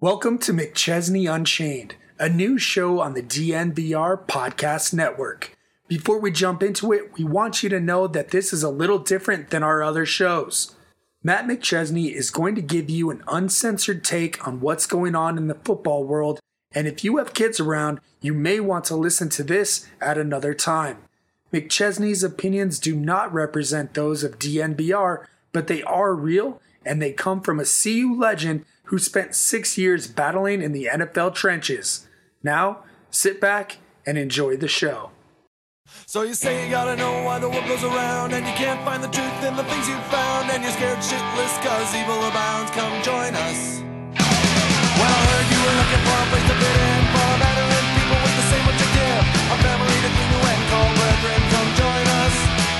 Welcome to McChesney Unchained, a new show on the DNVR Podcast Network. Before we jump into it, we want you to know that this is a little different than our other shows. Matt McChesney is going to give you an uncensored take on what's going on in the football world, and if you have kids around, you may want to listen to this at another time. McChesney's opinions do not represent those of DNVR, but they are real, and they come from a CU legend who spent 6 years battling in the NFL trenches. Now, sit back and enjoy the show. So you say you gotta know why the world goes around, and you can't find the truth in the things you found, and you're scared shitless cause evil abounds. Come join us. Well, I heard you were looking for a place to fit in, for a veteran people with the same objective, a family to cling to and call brethren. Come join us.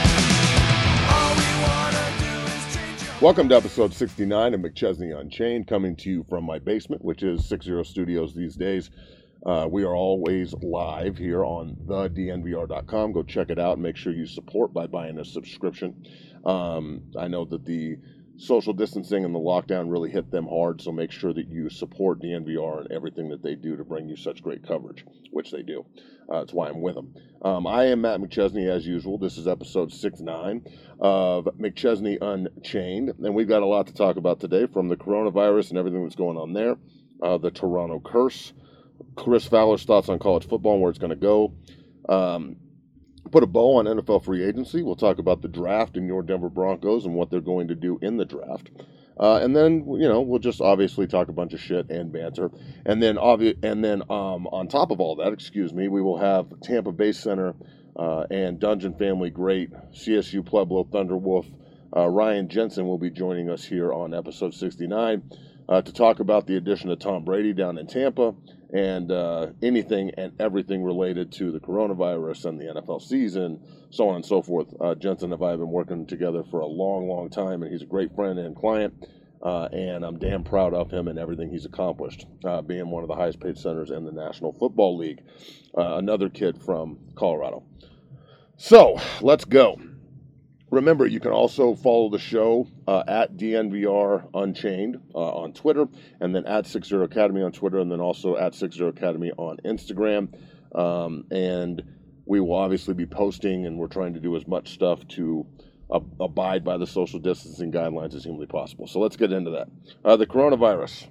All we wanna do is change your... Welcome to episode 69 of McChesney Unchained, coming to you from my basement, which is 60 Studios these days. We are always live here on thednvr.com. Go check it out and make sure you support by buying a subscription. I know that the social distancing and the lockdown really hit them hard, so make sure that you support DNVR and everything that they do to bring you such great coverage, which they do. That's why I'm with them. I am Matt McChesney, as usual. This is episode 69 of McChesney Unchained, and we've got a lot to talk about today, from the coronavirus and everything that's going on there, the Toronto curse, Chris Fowler's thoughts on college football and where it's going to go. Put a bow on NFL free agency. We'll talk about the draft and your Denver Broncos and what they're going to do in the draft. And then, we'll just obviously talk a bunch of shit and banter. And then on top of all that, we will have Tampa Bay Center and Dungeon Family great CSU Pueblo Thunderwolf Ryan Jensen will be joining us here on episode 69 to talk about the addition of Tom Brady down in Tampa, and anything and everything related to the coronavirus and the NFL season, so on and so forth. Jensen and I have been working together for a long, long time, and he's a great friend and client, and I'm damn proud of him and everything he's accomplished, being one of the highest paid centers in the National Football League. Another kid from Colorado. So, let's go. Remember, you can also follow the show at DNVR Unchained on Twitter, and then at 60 Academy on Twitter, and then also at 60 Academy on Instagram. And we will obviously be posting, and we're trying to do as much stuff to abide by the social distancing guidelines as humanly possible. So let's get into that. The coronavirus.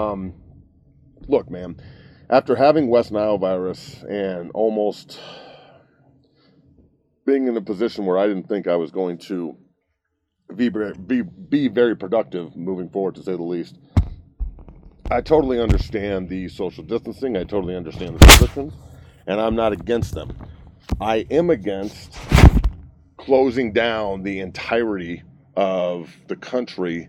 Look, man, after having West Nile virus and almost being in a position where I didn't think I was going to be very productive moving forward, to say the least, I totally understand the social distancing. I totally understand the restrictions, and I'm not against them. I am against closing down the entirety of the country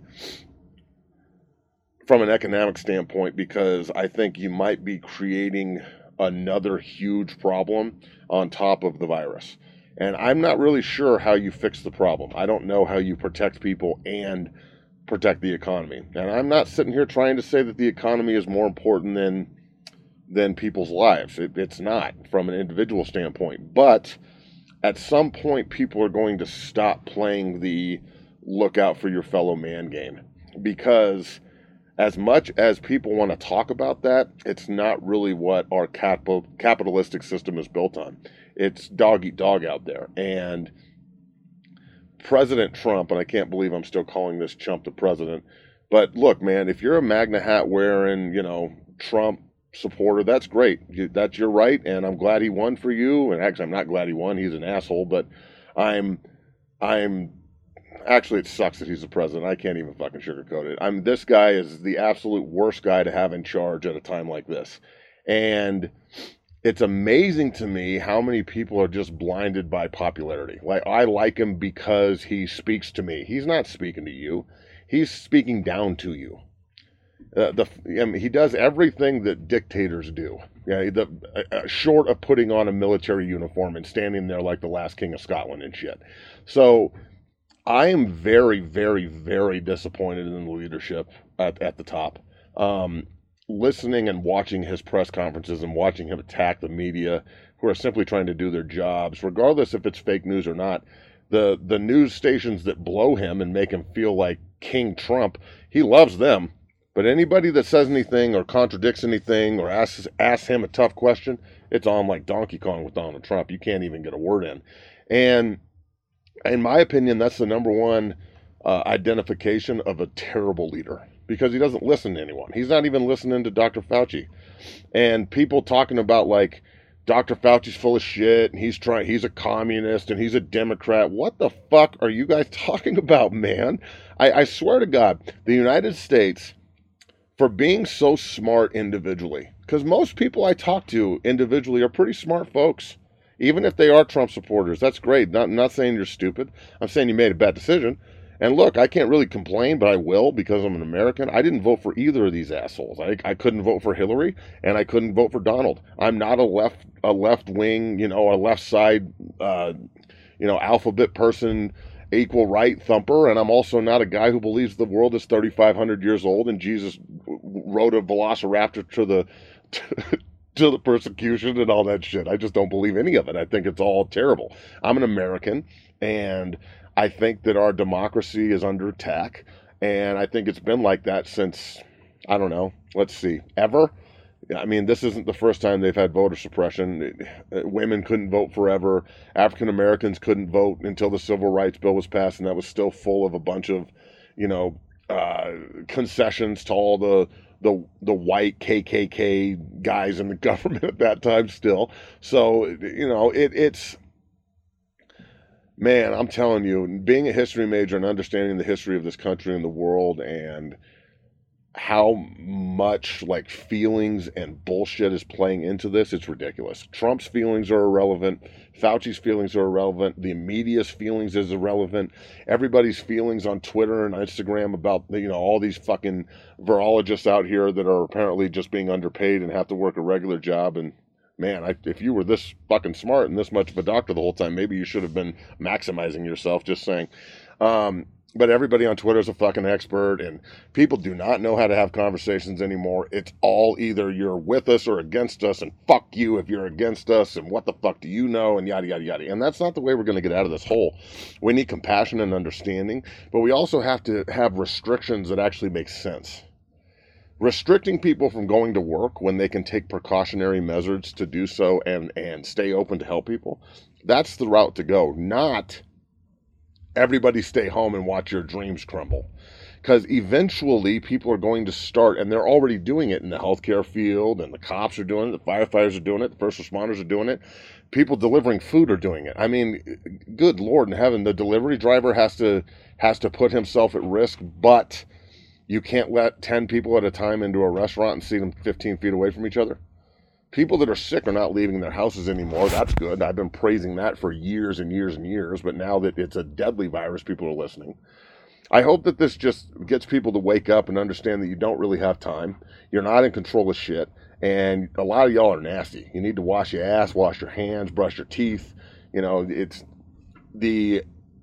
from an economic standpoint, because I think you might be creating another huge problem on top of the virus. And I'm not really sure how you fix the problem. I don't know how you protect people and protect the economy. And I'm not sitting here trying to say that the economy is more important than people's lives. It's not, from an individual standpoint. But at some point, people are going to stop playing the look out for your fellow man game. Because as much as people want to talk about that, it's not really what our capitalistic system is built on. It's dog eat dog out there. And President Trump, and I can't believe I'm still calling this chump the president, but look, man, if you're a MAGA hat wearing, Trump supporter, that's great. That's your right, and I'm glad he won for you. And actually, I'm not glad he won. He's an asshole, but I'm actually, it sucks that he's the president. I can't even fucking sugarcoat it. This guy is the absolute worst guy to have in charge at a time like this. And it's amazing to me how many people are just blinded by popularity. Like, I like him because he speaks to me. He's not speaking to you. He's speaking down to you. He does everything that dictators do. Short of putting on a military uniform and standing there like the last king of Scotland and shit. So I am very, very, very disappointed in the leadership at the top. Listening and watching his press conferences and watching him attack the media who are simply trying to do their jobs, regardless if it's fake news or not. The news stations that blow him and make him feel like King Trump, he loves them. But anybody that says anything or contradicts anything or asks him a tough question, it's on like Donkey Kong with Donald Trump. You can't even get a word in. And in my opinion, that's the number one identification of a terrible leader, because he doesn't listen to anyone. He's not even listening to Dr. Fauci. And people talking about like Dr. Fauci's full of shit and he's a communist and he's a Democrat. What the fuck are you guys talking about, man? I swear to God, the United States, for being so smart individually, because most people I talk to individually are pretty smart folks, even if they are Trump supporters. That's great. Not saying you're stupid. I'm saying you made a bad decision. And look, I can't really complain, but I will, because I'm an American. I didn't vote for either of these assholes. I couldn't vote for Hillary, and I couldn't vote for Donald. I'm not a left wing, a left side, alphabet person, equal right thumper, and I'm also not a guy who believes the world is 3,500 years old and Jesus rode a velociraptor to the persecution and all that shit. I just don't believe any of it. I think it's all terrible. I'm an American, and I think that our democracy is under attack, and I think it's been like that since, I don't know, ever. I mean, this isn't the first time they've had voter suppression. Women couldn't vote forever. African Americans couldn't vote until the Civil Rights Bill was passed, and that was still full of a bunch of, concessions to all the white KKK guys in the government at that time still. So, it's... Man, I'm telling you, being a history major and understanding the history of this country and the world and how much like feelings and bullshit is playing into this, it's ridiculous. Trump's feelings are irrelevant. Fauci's feelings are irrelevant. The media's feelings is irrelevant. Everybody's feelings on Twitter and Instagram about, all these fucking virologists out here that are apparently just being underpaid and have to work a regular job. And man, if you were this fucking smart and this much of a doctor the whole time, maybe you should have been maximizing yourself, just saying. But everybody on Twitter is a fucking expert, and people do not know how to have conversations anymore. It's all either you're with us or against us, and fuck you if you're against us, and what the fuck do you know, and yada, yada, yada. And that's not the way we're going to get out of this hole. We need compassion and understanding, but we also have to have restrictions that actually make sense. Restricting people from going to work when they can take precautionary measures to do so and stay open to help people, that's the route to go, not everybody stay home and watch your dreams crumble. Because eventually people are going to start, and they're already doing it in the healthcare field, and the cops are doing it, the firefighters are doing it, the first responders are doing it, people delivering food are doing it. I mean, good Lord in heaven, the delivery driver has to put himself at risk, but you can't let 10 people at a time into a restaurant and seat them 15 feet away from each other. People that are sick are not leaving their houses anymore. That's good. I've been praising that for years and years and years, but now that it's a deadly virus, people are listening. I hope that this just gets people to wake up and understand that you don't really have time. You're not in control of shit, and a lot of y'all are nasty. You need to wash your ass, wash your hands, brush your teeth. It's the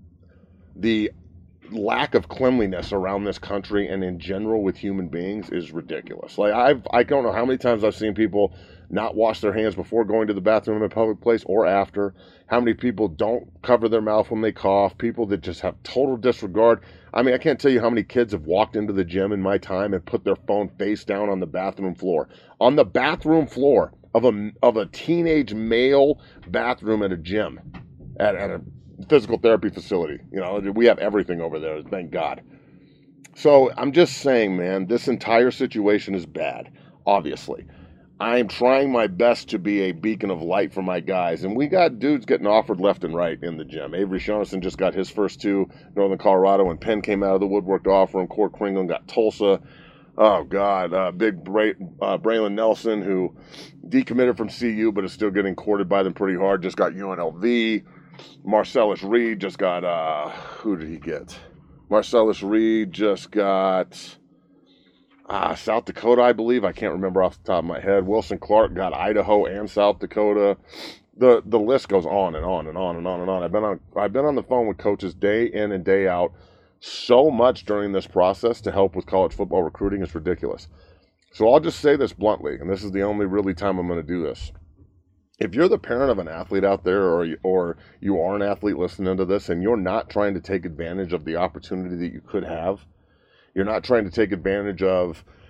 lack of cleanliness around this country and in general with human beings is ridiculous. Like I don't know how many times I've seen people not wash their hands before going to the bathroom in a public place or after. How many people don't cover their mouth when they cough. People that just have total disregard. I mean, I can't tell you how many kids have walked into the gym in my time and put their phone face down on the bathroom floor. On the bathroom floor of a teenage male bathroom at a gym, at a physical therapy facility. We have everything over there, thank God. So I'm just saying, man, this entire situation is bad, obviously. I'm trying my best to be a beacon of light for my guys, and we got dudes getting offered left and right in the gym. Avery Shaughnessy just got his first two, Northern Colorado, and Penn came out of the woodwork to offer him. Court Kringle got Tulsa. Oh, God, big Braylon Nelson, who decommitted from CU but is still getting courted by them pretty hard, just got UNLV. Marcellus Reed just got, who did he get? Marcellus Reed just got South Dakota, I believe. I can't remember off the top of my head. Wilson Clark got Idaho and South Dakota. The list goes on and on and on and on and on. I've been on the phone with coaches day in and day out so much during this process to help with college football recruiting. It's ridiculous. So I'll just say this bluntly, and this is the only really time I'm going to do this. If you're the parent of an athlete out there, or you are an athlete listening to this, and you're not trying to take advantage of the opportunity that you could have, you're not trying to take advantage of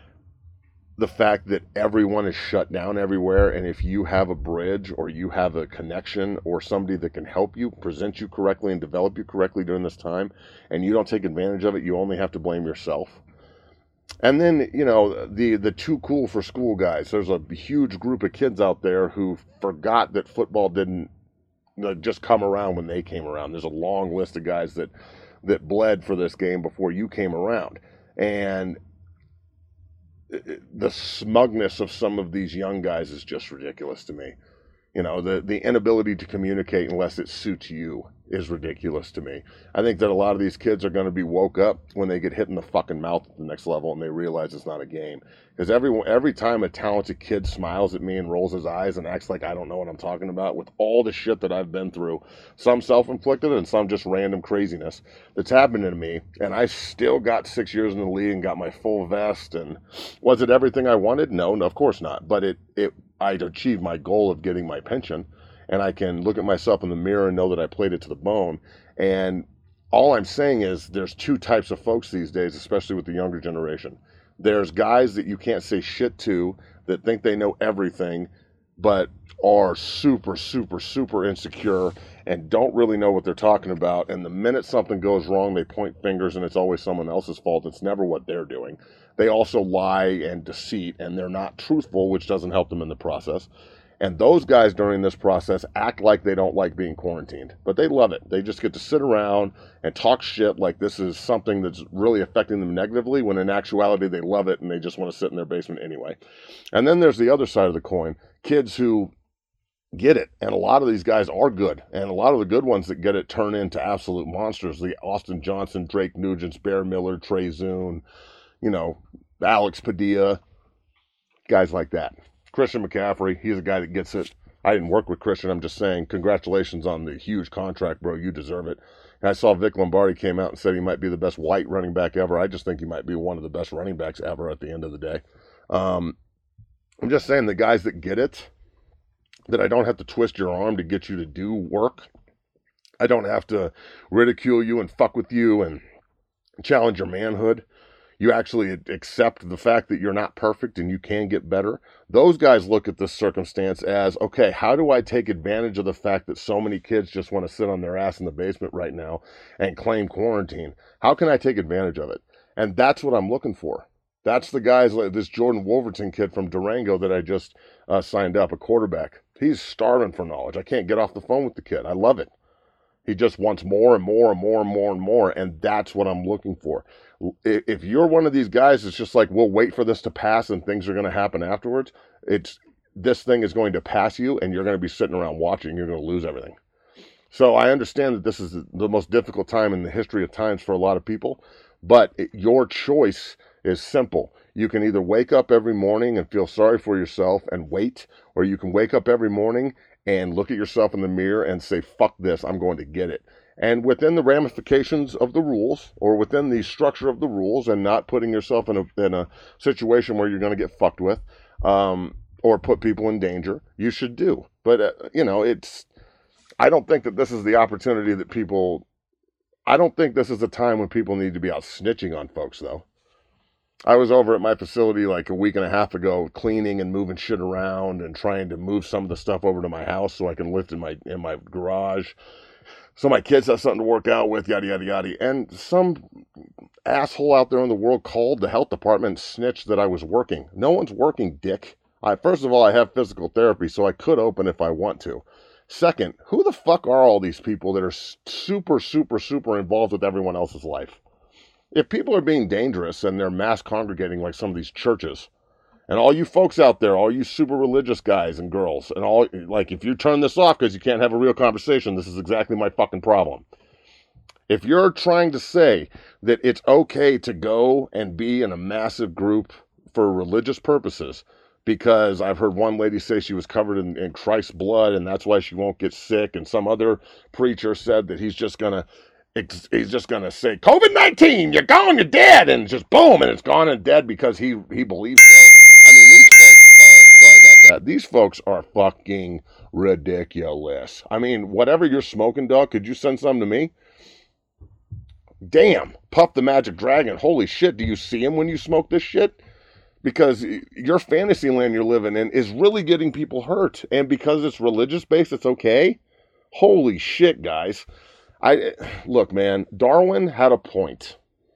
the fact that everyone is shut down everywhere, and if you have a bridge or you have a connection or somebody that can help you, present you correctly and develop you correctly during this time, and you don't take advantage of it, you only have to blame yourself. And then, you know, the too cool for school guys. There's a huge group of kids out there who forgot that football didn't just come around when they came around. There's a long list of guys that bled for this game before you came around. And the smugness of some of these young guys is just ridiculous to me. You know, the inability to communicate unless it suits you is ridiculous to me. I think that a lot of these kids are going to be woke up when they get hit in the fucking mouth at the next level and they realize it's not a game. Because every time a talented kid smiles at me and rolls his eyes and acts like I don't know what I'm talking about, with all the shit that I've been through, some self-inflicted and some just random craziness that's happened to me, and I still got 6 years in the league and got my full vest. And was it everything I wanted? No, of course not. But I'd achieved my goal of getting my pension, and I can look at myself in the mirror and know that I played it to the bone. And all I'm saying is there's two types of folks these days, especially with the younger generation. There's guys that you can't say shit to that think they know everything, but are super, super, super insecure and don't really know what they're talking about. And the minute something goes wrong, they point fingers and it's always someone else's fault. It's never what they're doing. They also lie and deceit, and they're not truthful, which doesn't help them in the process. And those guys during this process act like they don't like being quarantined, but they love it. They just get to sit around and talk shit like this is something that's really affecting them negatively, when in actuality they love it and they just want to sit in their basement anyway. And then there's the other side of the coin, kids who get it. And a lot of these guys are good. And a lot of the good ones that get it turn into absolute monsters. The Austin Johnson, Drake Nugents, Bear Miller, Trey Zune, you know, Alex Padilla, guys like that. Christian McCaffrey, he's a guy that gets it. I didn't work with Christian. I'm just saying, congratulations on the huge contract, bro. You deserve it. And I saw Vic Lombardi came out and said he might be the best white running back ever. I just think he might be one of the best running backs ever at the end of the day. I'm just saying, the guys that get it, that I don't have to twist your arm to get you to do work. I don't have to ridicule you and fuck with you and challenge your manhood. You actually accept the fact that you're not perfect and you can get better. Those guys look at this circumstance as, okay, how do I take advantage of the fact that so many kids just want to sit on their ass in the basement right now and claim quarantine? How can I take advantage of it? And that's what I'm looking for. That's the guys like this Jordan Wolverton kid from Durango that I just signed up, a quarterback. He's starving for knowledge. I can't get off the phone with the kid. I love it. He just wants more and more and more and more and more, and that's what I'm looking for. If you're one of these guys that's just like, we'll wait for this to pass and things are going to happen afterwards, this thing is going to pass you and you're going to be sitting around watching. You're going to lose everything. So I understand that this is the most difficult time in the history of times for a lot of people, but your choice is simple. You can either wake up every morning and feel sorry for yourself and wait, or you can wake up every morning and look at yourself in the mirror and say, fuck this, I'm going to get it. And within the ramifications of the rules, or within the structure of the rules, and not putting yourself in a situation where you're going to get fucked with, or put people in danger, you should do. But, I don't think that this is the opportunity that I don't think this is the time when people need to be out snitching on folks, though. I was over at my facility like a week and a half ago, cleaning and moving shit around and trying to move some of the stuff over to my house so I can lift in my garage, so my kids have something to work out with, yada, yada, yada. And some asshole out there in the world called the health department and snitched that I was working. No one's working, dick. First of all, I have physical therapy, so I could open if I want to. Second, who the fuck are all these people that are super, super, super involved with everyone else's life? If people are being dangerous and they're mass congregating like some of these churches, and all you folks out there, all you super religious guys and girls, and all, like, if you turn this off because you can't have a real conversation, this is exactly my fucking problem. If you're trying to say that it's okay to go and be in a massive group for religious purposes, because I've heard one lady say she was covered in Christ's blood and that's why she won't get sick, and some other preacher said that he's just going to say, COVID-19, you're gone, you're dead, and just boom, and it's gone and dead because he believes so. I mean, these folks are, sorry about that, these folks are fucking ridiculous. I mean, whatever you're smoking, dog, could you send some to me? Damn, Puff the Magic Dragon, holy shit, do you see him when you smoke this shit? because your fantasy land you're living in is really getting people hurt. And because it's religious based, it's okay. Holy shit, guys. Look, man, Darwin had a point.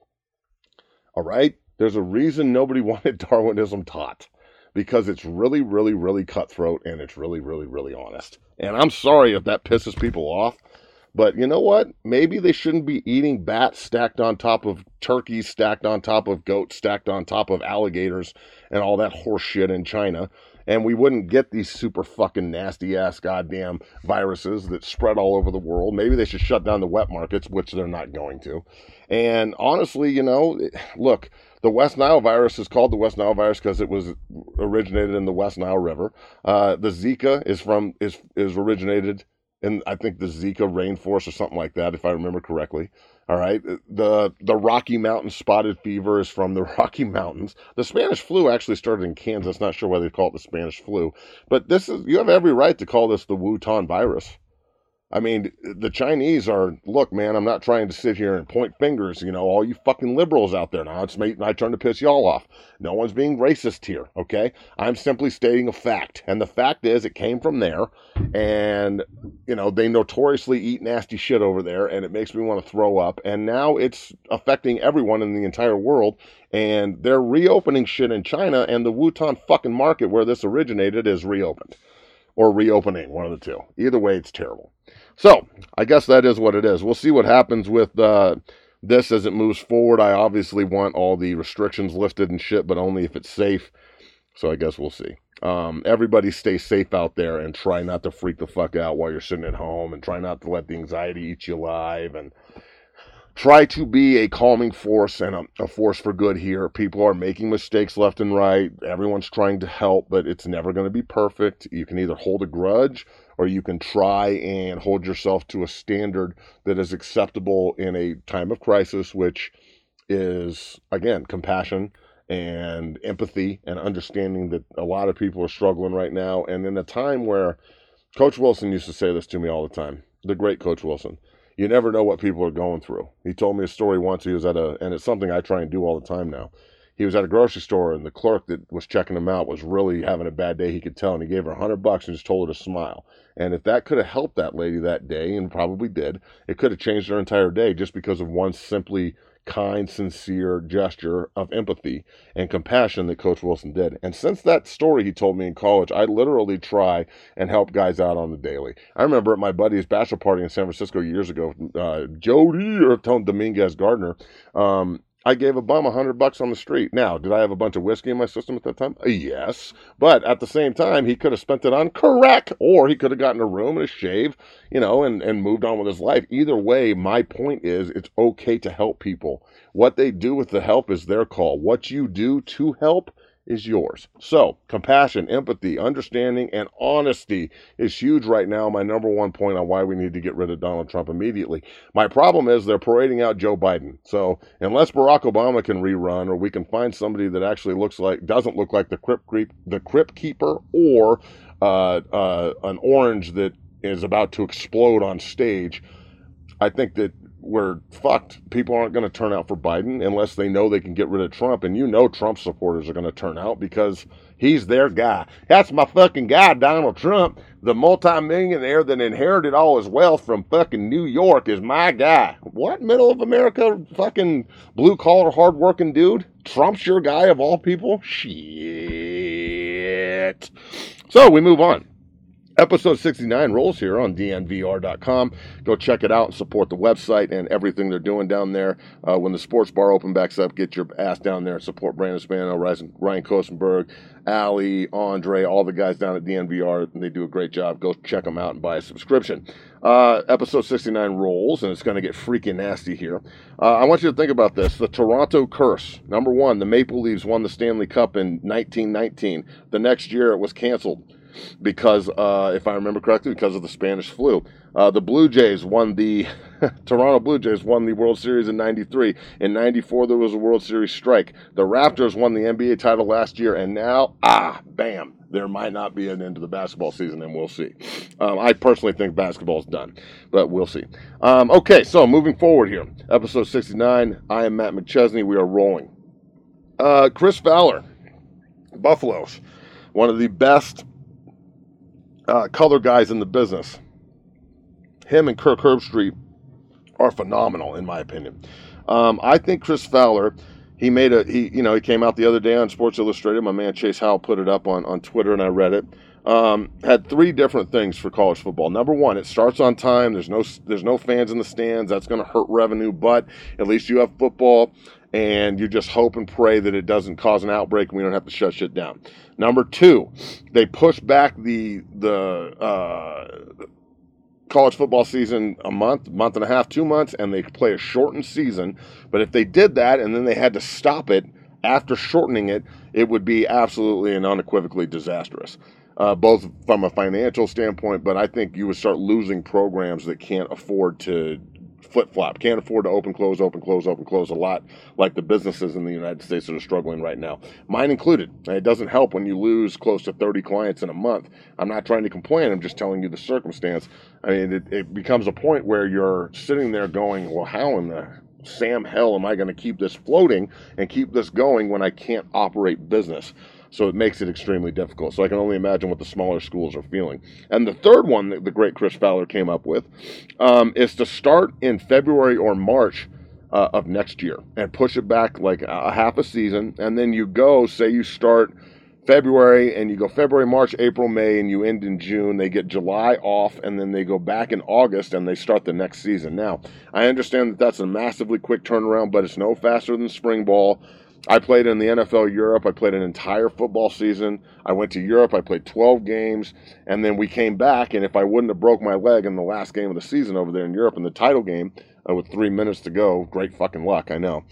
All right? There's a reason nobody wanted Darwinism taught. Because it's really, really, really cutthroat, and it's really, really, really honest. And I'm sorry if that pisses people off, but you know what? Maybe they shouldn't be eating bats stacked on top of turkeys, stacked on top of goats, stacked on top of alligators, and all that horse shit in China. And we wouldn't get these super fucking nasty-ass goddamn viruses that spread all over the world. Maybe they should shut down the wet markets, which they're not going to. And honestly, you know, look, the West Nile virus is called the West Nile virus because it was originated in the West Nile River. The Zika is originated in, I think, the Zika rainforest or something like that, if I remember correctly. All right. The Rocky Mountain spotted fever is from the Rocky Mountains. The Spanish flu actually started in Kansas. Not sure why they call it the Spanish flu, but you have every right to call this the Wuhan virus. I mean, the Chinese are, look, man, I'm not trying to sit here and point fingers, you know, all you fucking liberals out there. Now it's my turn to piss y'all off. No one's being racist here, okay? I'm simply stating a fact. And the fact is, it came from there. And, you know, they notoriously eat nasty shit over there. And it makes me want to throw up. And now it's affecting everyone in the entire world. And they're reopening shit in China. And the Wuhan fucking market where this originated is reopened. Or reopening, one of the two. Either way, it's terrible. So, I guess that is what it is. We'll see what happens with this as it moves forward. I obviously want all the restrictions lifted and shit, but only if it's safe. So, I guess we'll see. Everybody stay safe out there and try not to freak the fuck out while you're sitting at home, and try not to let the anxiety eat you alive, and try to be a calming force and a force for good here. People are making mistakes left and right. Everyone's trying to help, but it's never going to be perfect. You can either hold a grudge, or you can try and hold yourself to a standard that is acceptable in a time of crisis, which is, again, compassion and empathy and understanding that a lot of people are struggling right now. And in a time where Coach Wilson used to say this to me all the time, the great Coach Wilson, you never know what people are going through. He told me a story once. He was and it's something I try and do all the time now. He was at a grocery store, and the clerk that was checking him out was really having a bad day. He could tell, and he gave her $100 and just told her to smile. And if that could have helped that lady that day, and probably did, it could have changed her entire day just because of one simply kind, sincere gesture of empathy and compassion that Coach Wilson did. And since that story he told me in college, I literally try and help guys out on the daily. I remember at my buddy's bachelor party in San Francisco years ago, Jody, or Tone Dominguez Gardner, I gave a bum $100 on the street. Now, did I have a bunch of whiskey in my system at that time? Yes. But at the same time, he could have spent it on crack, or he could have gotten a room and a shave, you know, and moved on with his life. Either way, my point is it's okay to help people. What they do with the help is their call. What you do to help is yours. So, compassion, empathy, understanding, and honesty is huge right now. My number one point on why we need to get rid of Donald Trump immediately. My problem is they're parading out Joe Biden. So, unless Barack Obama can rerun, or we can find somebody that actually doesn't look like the Crypt Keeper, or an orange that is about to explode on stage, I think that we're fucked. People aren't going to turn out for Biden unless they know they can get rid of Trump. And you know Trump supporters are going to turn out because he's their guy. That's my fucking guy, Donald Trump. The multimillionaire that inherited all his wealth from fucking New York is my guy. What? Middle of America fucking blue-collar, hard-working dude? Trump's your guy of all people? Shit. So we move on. Episode 69 rolls here on dnvr.com. Go check it out and support the website and everything they're doing down there. When the sports bar open backs up, get your ass down there and support Brandon Spano, Ryan Kosenberg, Ali, Andre, all the guys down at DNVR. They do a great job. Go check them out and buy a subscription. Episode 69 rolls, and it's going to get freaking nasty here. I want you to think about this. The Toronto curse. Number one, the Maple Leafs won the Stanley Cup in 1919. The next year, it was canceled because, if I remember correctly, because of the Spanish flu. The Blue Jays won the Toronto Blue Jays won the World Series in 93. In 94, there was a World Series strike. The Raptors won the NBA title last year, and now, bam, there might not be an end to the basketball season, and we'll see. I personally think basketball's done, but we'll see. Okay, so moving forward here. Episode 69, I am Matt McChesney. We are rolling. Chris Fowler. Buffalo's one of the best color guys in the business. Him and Kirk Herbstreit are phenomenal, in my opinion. I think Chris Fowler, he came out the other day on Sports Illustrated. My man Chase Howell put it up on Twitter, and I read it. Had three different things for college football. Number one, it starts on time. There's no fans in the stands. That's going to hurt revenue, but at least you have football, and you just hope and pray that it doesn't cause an outbreak and we don't have to shut shit down. Number two, they push back the college football season a month and a half, 2 months, and they play a shortened season. But if they did that and then they had to stop it after shortening it, it would be absolutely and unequivocally disastrous. Both from a financial standpoint, but I think you would start losing programs that can't afford to flip-flop, can't afford to open, close a lot, like the businesses in the United States that are struggling right now, mine included. And it doesn't help when you lose close to 30 clients in a month. I'm not trying to complain. I'm just telling you the circumstance. I mean, it becomes a point where you're sitting there going, well, how in the Sam hell am I going to keep this floating and keep this going when I can't operate business? So it makes it extremely difficult. So I can only imagine what the smaller schools are feeling. And the third one that the great Chris Fowler came up with is to start in February or March of next year and push it back like a half a season. And then you go, say you start February and you go February, March, April, May, and you end in June. They get July off, and then they go back in August and they start the next season. Now, I understand that that's a massively quick turnaround, but it's no faster than spring ball. I played in the NFL Europe. I played an entire football season. I went to Europe. I played 12 games, and then we came back, and if I wouldn't have broke my leg in the last game of the season over there in Europe in the title game with 3 minutes to go, great fucking luck, I know,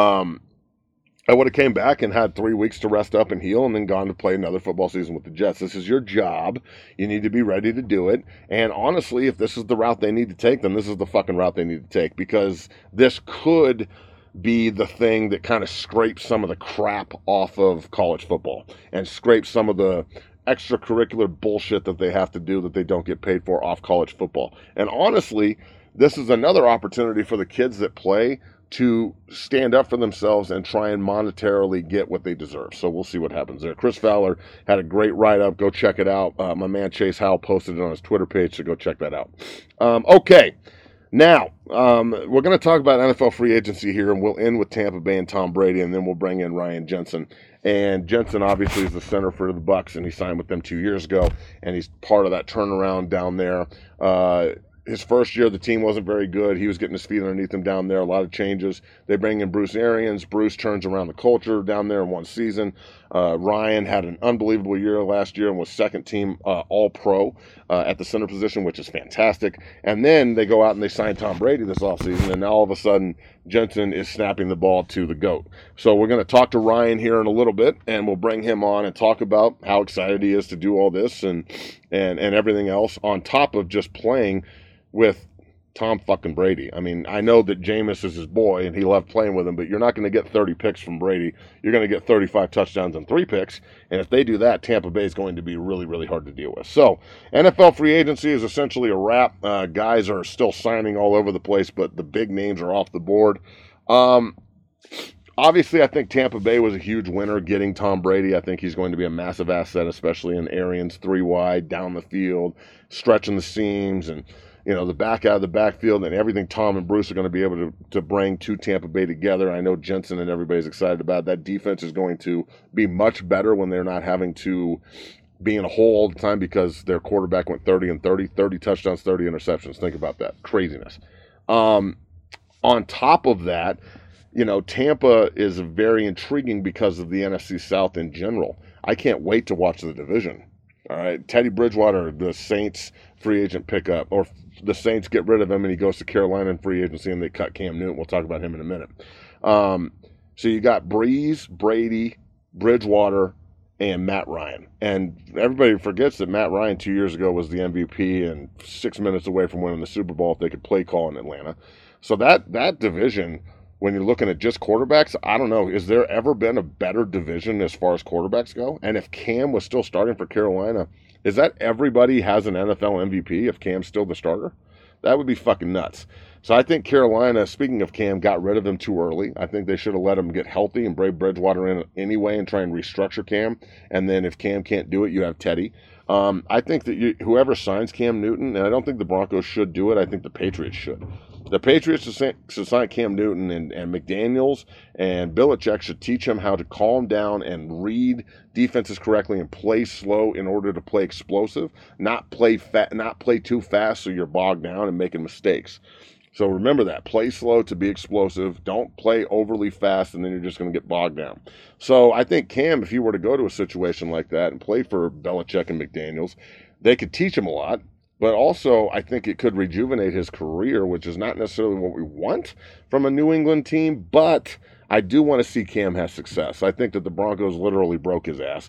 I would have came back and had 3 weeks to rest up and heal and then gone to play another football season with the Jets. This is your job. You need to be ready to do it. And honestly, if this is the route they need to take, then this is the fucking route they need to take, because this could be the thing that kind of scrapes some of the crap off of college football and scrapes some of the extracurricular bullshit that they have to do that they don't get paid for off college football. And honestly, this is another opportunity for the kids that play to stand up for themselves and try and monetarily get what they deserve. So we'll see what happens there. Chris Fowler had a great write-up. Go check it out. My man Chase Howell posted it on his Twitter page, so go check that out. Okay. Now, we're going to talk about NFL free agency here, and we'll end with Tampa Bay and Tom Brady, and then we'll bring in Ryan Jensen. And Jensen obviously is the center for the Bucs, and he signed with them 2 years ago, and he's part of that turnaround down there. His first year, the team wasn't very good. He was getting his feet underneath him down there. A lot of changes. They bring in Bruce Arians. Bruce turns around the culture down there in one season. Ryan had an unbelievable year last year and was second team All-Pro at the center position, which is fantastic. And then they go out and they sign Tom Brady this offseason, and now all of a sudden Jensen is snapping the ball to the GOAT. So we're going to talk to Ryan here in a little bit, and we'll bring him on and talk about how excited he is to do all this and everything else on top of just playing with Tom fucking Brady. I mean, I know that Jameis is his boy and he loved playing with him, but you're not going to get 30 picks from Brady. You're going to get 35 touchdowns and 3 picks. And if they do that, Tampa Bay is going to be really, really hard to deal with. So NFL free agency is essentially a wrap. Guys are still signing all over the place, but the big names are off the board. Obviously, I think Tampa Bay was a huge winner getting Tom Brady. I think he's going to be a massive asset, especially in Arians 3 wide, down the field, stretching the seams, and the back out of the backfield, and everything Tom and Bruce are going to be able to bring to Tampa Bay together. I know Jensen and everybody's excited about it. That defense is going to be much better when they're not having to be in a hole all the time because their quarterback went 30 and 30 touchdowns, 30 interceptions. Think about that. Craziness. On top of that, Tampa is very intriguing because of the NFC South in general. I can't wait to watch the division. All right, Teddy Bridgewater, the Saints free agent pickup, or the Saints get rid of him and he goes to Carolina in free agency and they cut Cam Newton. We'll talk about him in a minute. So you got Breeze, Brady, Bridgewater, and Matt Ryan. And everybody forgets that Matt Ryan 2 years ago was the MVP and 6 minutes away from winning the Super Bowl if they could play call in Atlanta. So that division, when you're looking at just quarterbacks, I don't know. Is there ever been a better division as far as quarterbacks go? And if Cam was still starting for Carolina, is that everybody has an NFL MVP if Cam's still the starter? That would be fucking nuts. So I think Carolina, speaking of Cam, got rid of him too early. I think they should have let him get healthy and brave Bridgewater in anyway and try and restructure Cam. And then if Cam can't do it, you have Teddy. I think that whoever signs Cam Newton, and I don't think the Broncos should do it, I think the Patriots should. The Patriots should sign Cam Newton, and McDaniels and Belichick should teach him how to calm down and read defenses correctly and play slow in order to play explosive, not play too fast so you're bogged down and making mistakes. So remember that. Play slow to be explosive. Don't play overly fast, and then you're just going to get bogged down. So I think Cam, if he were to go to a situation like that and play for Belichick and McDaniels, they could teach him a lot. But also, I think it could rejuvenate his career, which is not necessarily what we want from a New England team. But I do want to see Cam have success. I think that the Broncos literally broke his ass.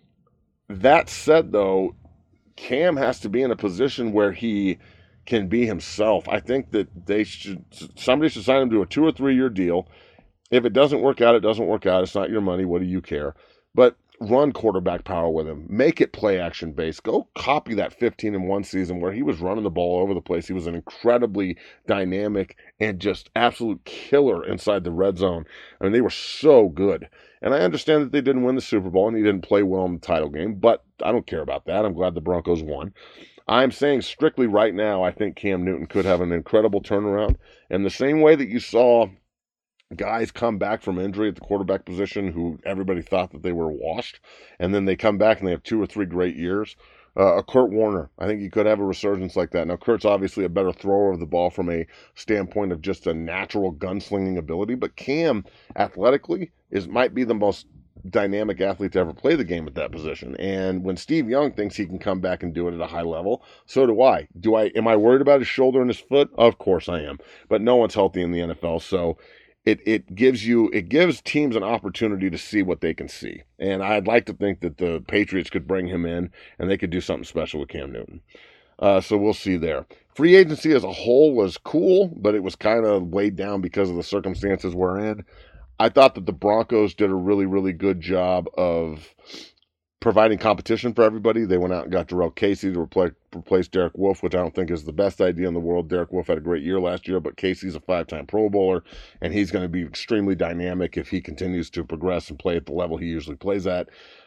That said, though, Cam has to be in a position where he can be himself. I think that somebody should sign him to a 2 or 3 year deal. If it doesn't work out, it doesn't work out. It's not your money. What do you care? But run quarterback power with him. Make it play action based. Go copy that 15-1 season where he was running the ball all over the place. He was an incredibly dynamic and just absolute killer inside the red zone. I mean, they were so good. And I understand that they didn't win the Super Bowl and he didn't play well in the title game, but I don't care about that. I'm glad the Broncos won. I'm saying strictly right now, I think Cam Newton could have an incredible turnaround. And the same way that you saw guys come back from injury at the quarterback position who everybody thought that they were washed, and then they come back and they have 2 or 3 great years. Kurt Warner, I think he could have a resurgence like that. Now, Kurt's obviously a better thrower of the ball from a standpoint of just a natural gunslinging ability, but Cam, athletically, might be the most dynamic athlete to ever play the game at that position. And when Steve Young thinks he can come back and do it at a high level, so do I. Am I worried about his shoulder and his foot? Of course I am. But no one's healthy in the NFL, so it gives teams an opportunity to see what they can see. And I'd like to think that the Patriots could bring him in and they could do something special with Cam Newton. So we'll see there. Free agency as a whole was cool, but it was kind of weighed down because of the circumstances we're in. I thought that the Broncos did a really, really good job of providing competition for everybody. They went out and got Jarrell Casey to replace Derek Wolfe, which I don't think is the best idea in the world. Derek Wolfe had a great year last year, but Casey's a 5-time Pro Bowler, and he's going to be extremely dynamic if he continues to progress and play at the level he usually plays at.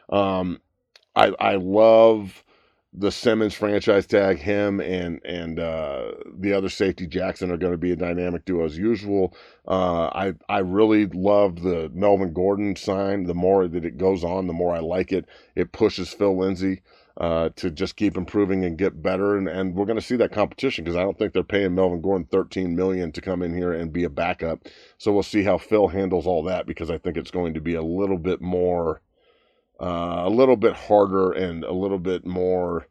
I love the Simmons franchise tag. Him and the other safety Jackson are going to be a dynamic duo as usual. I really loved the Melvin Gordon sign. The more that it goes on, the more I like it. It pushes Phil Lindsay to just keep improving and get better. And we're going to see that competition because I don't think they're paying Melvin Gordon $13 million to come in here and be a backup. So we'll see how Phil handles all that because I think it's going to be a little bit more, a little bit harder and a little bit more.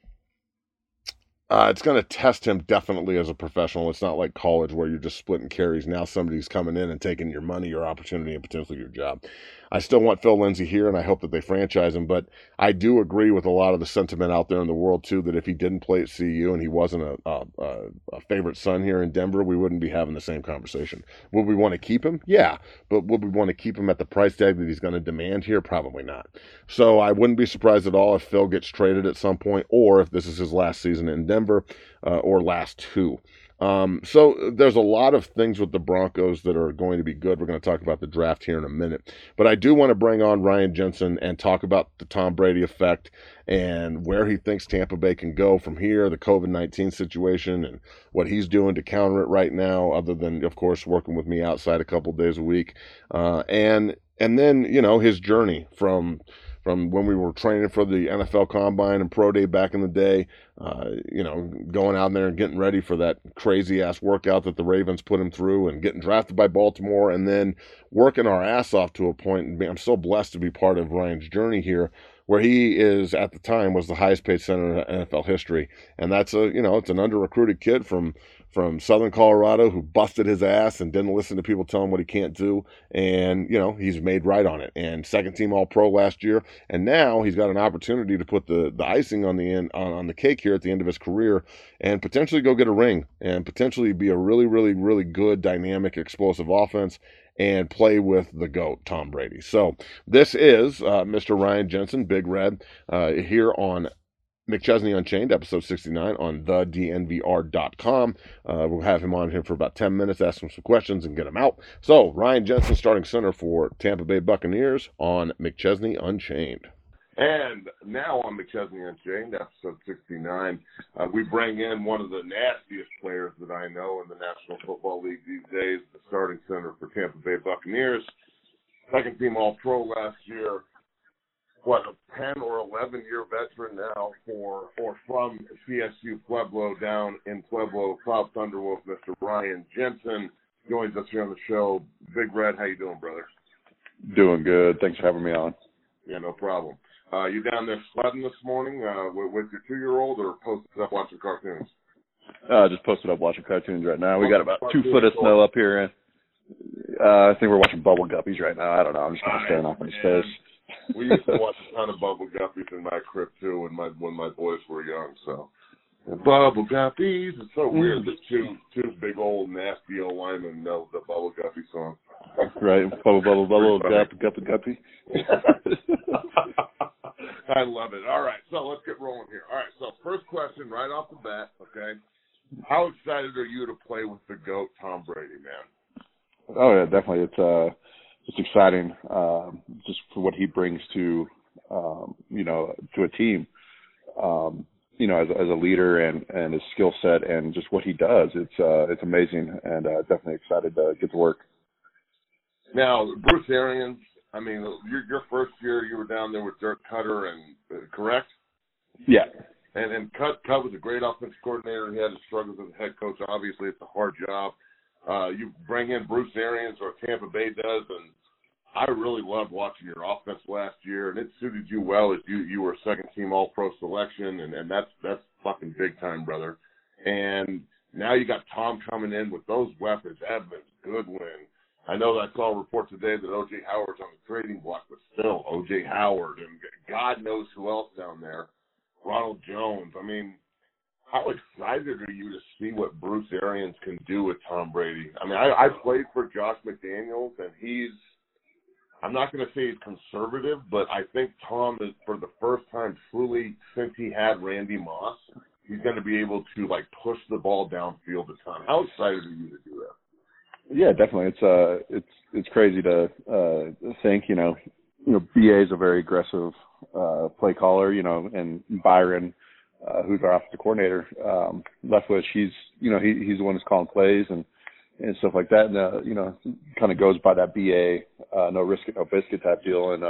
It's going to test him definitely as a professional. It's not like college where you're just splitting carries. Now somebody's coming in and taking your money, your opportunity, and potentially your job. I still want Phil Lindsay here, and I hope that they franchise him. But I do agree with a lot of the sentiment out there in the world, too, that if he didn't play at CU and he wasn't a favorite son here in Denver, we wouldn't be having the same conversation. Would we want to keep him? Yeah. But would we want to keep him at the price tag that he's going to demand here? Probably not. So I wouldn't be surprised at all if Phil gets traded at some point or if this is his last season in Denver or last 2. So there's a lot of things with the Broncos that are going to be good. We're going to talk about the draft here in a minute. But I do want to bring on Ryan Jensen and talk about the Tom Brady effect and where he thinks Tampa Bay can go from here, the COVID-19 situation, and what he's doing to counter it right now, other than, of course, working with me outside a couple days a week. And then, his journey from when we were training for the NFL Combine and Pro Day back in the day, going out there and getting ready for that crazy-ass workout that the Ravens put him through and getting drafted by Baltimore and then working our ass off to a point. And I'm so blessed to be part of Ryan's journey here where he is, at the time, was the highest-paid center in NFL history. And that's it's an under-recruited kid from Southern Colorado who busted his ass and didn't listen to people tell him what he can't do. And, he's made right on it. And second-team All-Pro last year. And now he's got an opportunity to put the icing on the cake here at the end of his career and potentially go get a ring and potentially be a really, really, really good, dynamic, explosive offense and play with the GOAT, Tom Brady. So this is Mr. Ryan Jensen, Big Red, here on McChesney Unchained, episode 69 on thednvr.com. We'll have him on here for about 10 minutes, ask him some questions, and get him out. So, Ryan Jensen, starting center for Tampa Bay Buccaneers on McChesney Unchained. And now on McChesney Unchained, episode 69, we bring in one of the nastiest players that I know in the National Football League these days, the starting center for Tampa Bay Buccaneers, second team All-Pro last year. What, a 10 or 11-year veteran now from CSU Pueblo down in Pueblo, South Thunderwolf, Mr. Ryan Jensen joins us here on the show. Big Red, how you doing, brother? Doing good. Thanks for having me on. Yeah, no problem. You down there sledding this morning with your 2-year-old or posted up watching cartoons? Just posted up watching cartoons right now. We got about 2 foot of snow up here. I think we're watching Bubble Guppies right now. I don't know. I'm just kind of staring off in his face. We used to watch a ton of Bubble Guppies in my crib too when my boys were young. So Bubble Guppies. It's so weird that two big old nasty old linemen know the Bubble Guppy song. Right, bubble, bubble, bubble, guppy. I love it. All right, so let's get rolling here. All right, so first question right off the bat. Okay, how excited are you to play with the GOAT, Tom Brady, man? Oh yeah, definitely. It's exciting, just for what he brings to, to a team, as a leader and his skill set and just what he does. It's amazing, and definitely excited to get to work. Now, Bruce Arians, I mean, your first year you were down there with Dirk Cutter, and correct? Yeah. And Cut was a great offensive coordinator. He had his struggles as a head coach. Obviously, it's a hard job. You bring in Bruce Arians, or Tampa Bay does, and I really loved watching your offense last year, and it suited you well as you were a second-team All-Pro selection, and that's fucking big time, brother. And now you got Tom coming in with those weapons, Evans, Goodwin. I know that I saw a report today that O.J. Howard's on the trading block, but still, O.J. Howard, and God knows who else down there, Ronald Jones. I mean, how excited are you to see what Bruce Arians can do with Tom Brady? I mean, I played for Josh McDaniels, and I'm not going to say he's conservative, but I think Tom is, for the first time truly since he had Randy Moss, he's going to be able to, push the ball downfield a ton. How excited are you to do that? Yeah, definitely. It's crazy to think, BA is a very aggressive play caller, and Byron, who's our offensive coordinator, Leftwich, he's the one who's calling plays and stuff like that. And, kind of goes by that BA, no risk it, no biscuit type deal. And,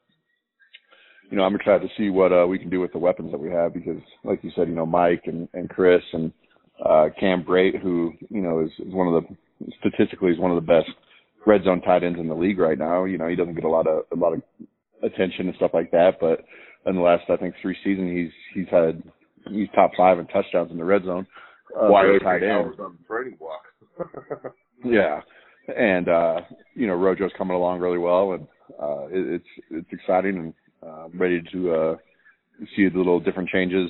I'm excited to see what we can do with the weapons that we have because, like you said, Mike and Chris and Cam Brate, who, is one of the, statistically is one of the best red zone tight ends in the league right now. He doesn't get a lot of attention and stuff like that, but in the last, I think, 3 seasons, he's top 5 in touchdowns in the red zone. Why tight end on the trading block? Yeah, and Rojo's coming along really well, and it's exciting, and I'm ready to see the little different changes.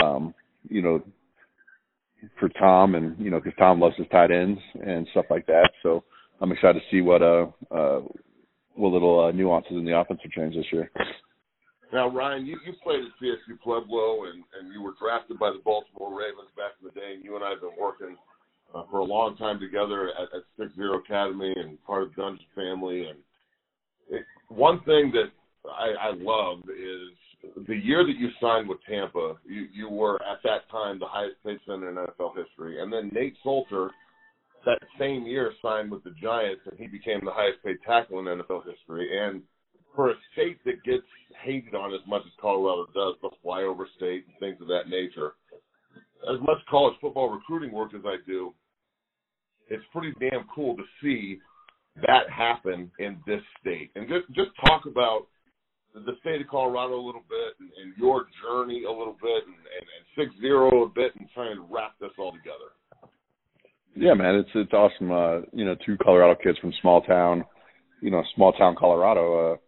For Tom, and because Tom loves his tight ends and stuff like that. So I'm excited to see what little nuances in the offensive change this year. Now, Ryan, you played at CSU Pueblo, and you were drafted by the Baltimore Ravens back in the day, and you and I have been working for a long time together at 6-0 Academy and part of the Dungeon family. And one thing that I loved is the year that you signed with Tampa, you were at that time the highest paid center in NFL history. And then Nate Solter, that same year, signed with the Giants, and he became the highest paid tackle in NFL history. And for a state that gets hated on as much as Colorado does, the flyover state and things of that nature, as much college football recruiting work as I do, it's pretty damn cool to see that happen in this state. And just talk about the state of Colorado a little bit and your journey a little bit and 6-0 a bit and trying to wrap this all together. Yeah, man, it's awesome. 2 Colorado kids from small town Colorado.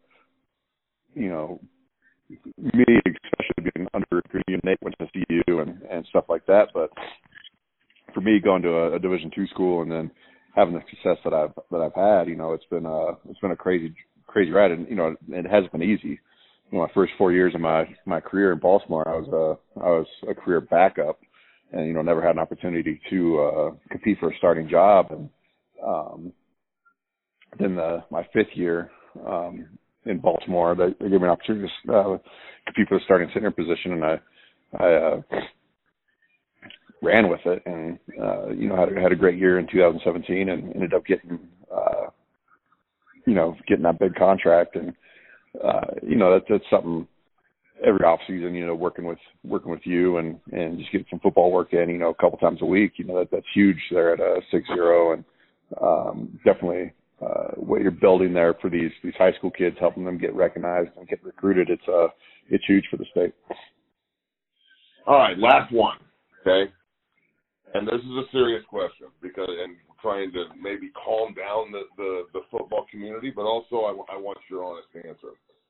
Me especially being under Nate went to CU and stuff like that. But for me, going to a Division II school and then having the success that I've had, it's been a crazy ride, and it hasn't been easy. my first 4 years of my career in Baltimore, I was a career backup, and never had an opportunity to compete for a starting job. And then my fifth year in Baltimore, they gave me an opportunity to compete for the starting center position, and I ran with it, and had a great year in 2017, and ended up getting that big contract. And that's something every off season, working with you and just getting some football work in, a couple times a week, that's huge there at 6-0, and definitely what you're building there for these high school kids, helping them get recognized and get recruited. It's huge for the state. All right, last one, okay? And this is a serious question and trying to maybe calm down the football community, but also I want your honest answer.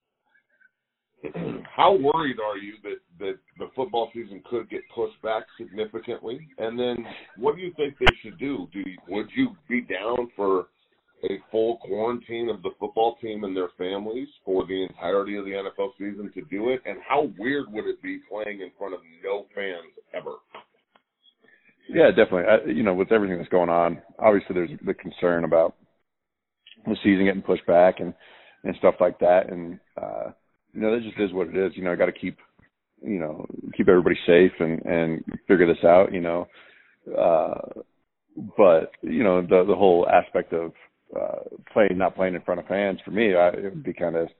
How worried are you that the football season could get pushed back significantly? And then what do you think they should do? Would you be down for a full quarantine of the football team and their families for the entirety of the NFL season to do it? And how weird would it be playing in front of no fans ever? Yeah, definitely. With everything that's going on, obviously there's the concern about the season getting pushed back and stuff like that. And, that just is what it is. I got to keep everybody safe and figure this out, but, the whole aspect of not playing in front of fans, for me, it would be kind of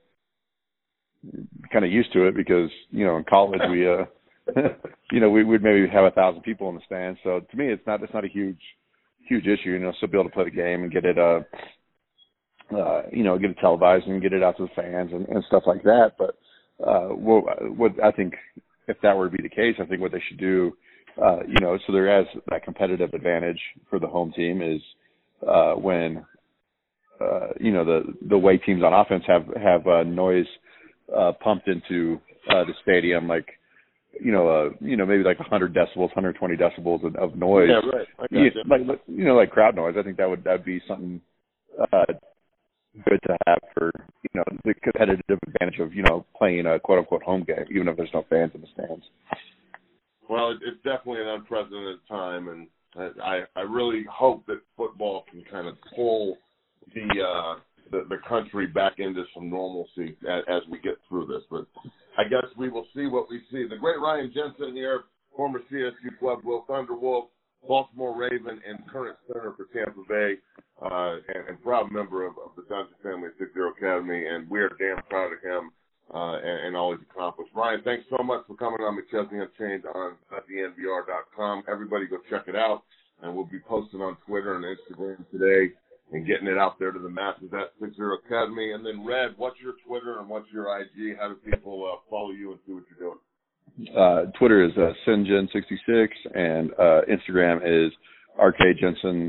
used to it because, in college we, we'd maybe have 1,000 people in the stands. So to me, it's not a huge issue, still be able to play the game and get it, get it televised and get it out to the fans and stuff like that. But, what I think, if that were to be the case, I think what they should do, so there is that competitive advantage for the home team is, when, the way teams on offense have noise, pumped into, the stadium, like, maybe like 100 decibels, 120 decibels of noise. Yeah, right. Like crowd noise. I think that'd be something good to have for the competitive advantage of playing a quote unquote home game, even if there's no fans in the stands. Well, it's definitely an unprecedented time, and I really hope that football can kind of pull the country back into some normalcy as we get through this. But I guess we will see what we see. The great Ryan Jensen here, former CSU Club Will Thunderwolf, Baltimore Raven, and current center for Tampa Bay, and proud member of the Johnson family at 6-0 Academy, and we are damn proud of him and all he's accomplished. Ryan, thanks so much for coming on McChesney Unchained on DNVR.com. Everybody go check it out, and we'll be posting on Twitter and Instagram today and getting it out there to the masses at 6-0 Academy. And then, Red, what's your Twitter and what's your IG? How do people follow you and see what you're doing? Twitter is Sinjen66, and Instagram is RKJensen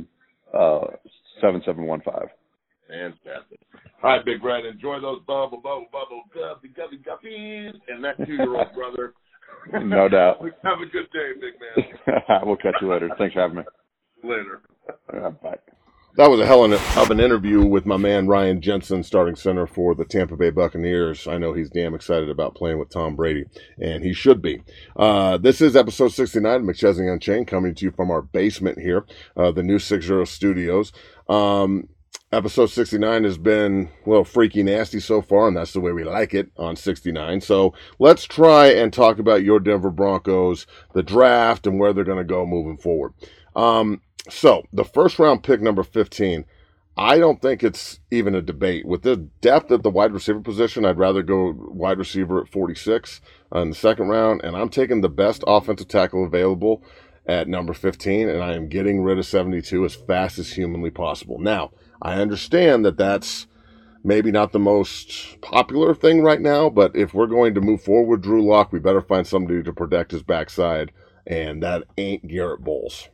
7715. Fantastic. All right, Big Red, enjoy those bubble guppies and that 2-year-old brother. No doubt. Have a good day, big man. We'll catch you later. Thanks for having me. Later. Bye. That was a hell of an interview with my man Ryan Jensen, starting center for the Tampa Bay Buccaneers. I know he's damn excited about playing with Tom Brady, and he should be. This is episode 69 of McChesney Unchained, coming to you from our basement here, the new 6-0 studios. Episode 69 has been a little freaky nasty so far, and that's the way we like it on 69. So let's try and talk about your Denver Broncos, the draft, and where they're going to go moving forward. So the first round pick, number 15, I don't think it's even a debate. With the depth at the wide receiver position, I'd rather go wide receiver at 46 in the second round, and I'm taking the best offensive tackle available at number 15, and I am getting rid of 72 as fast as humanly possible. Now, I understand that that's maybe not the most popular thing right now, but if we're going to move forward with Drew Lock, we better find somebody to protect his backside, and that ain't Garrett Bowles.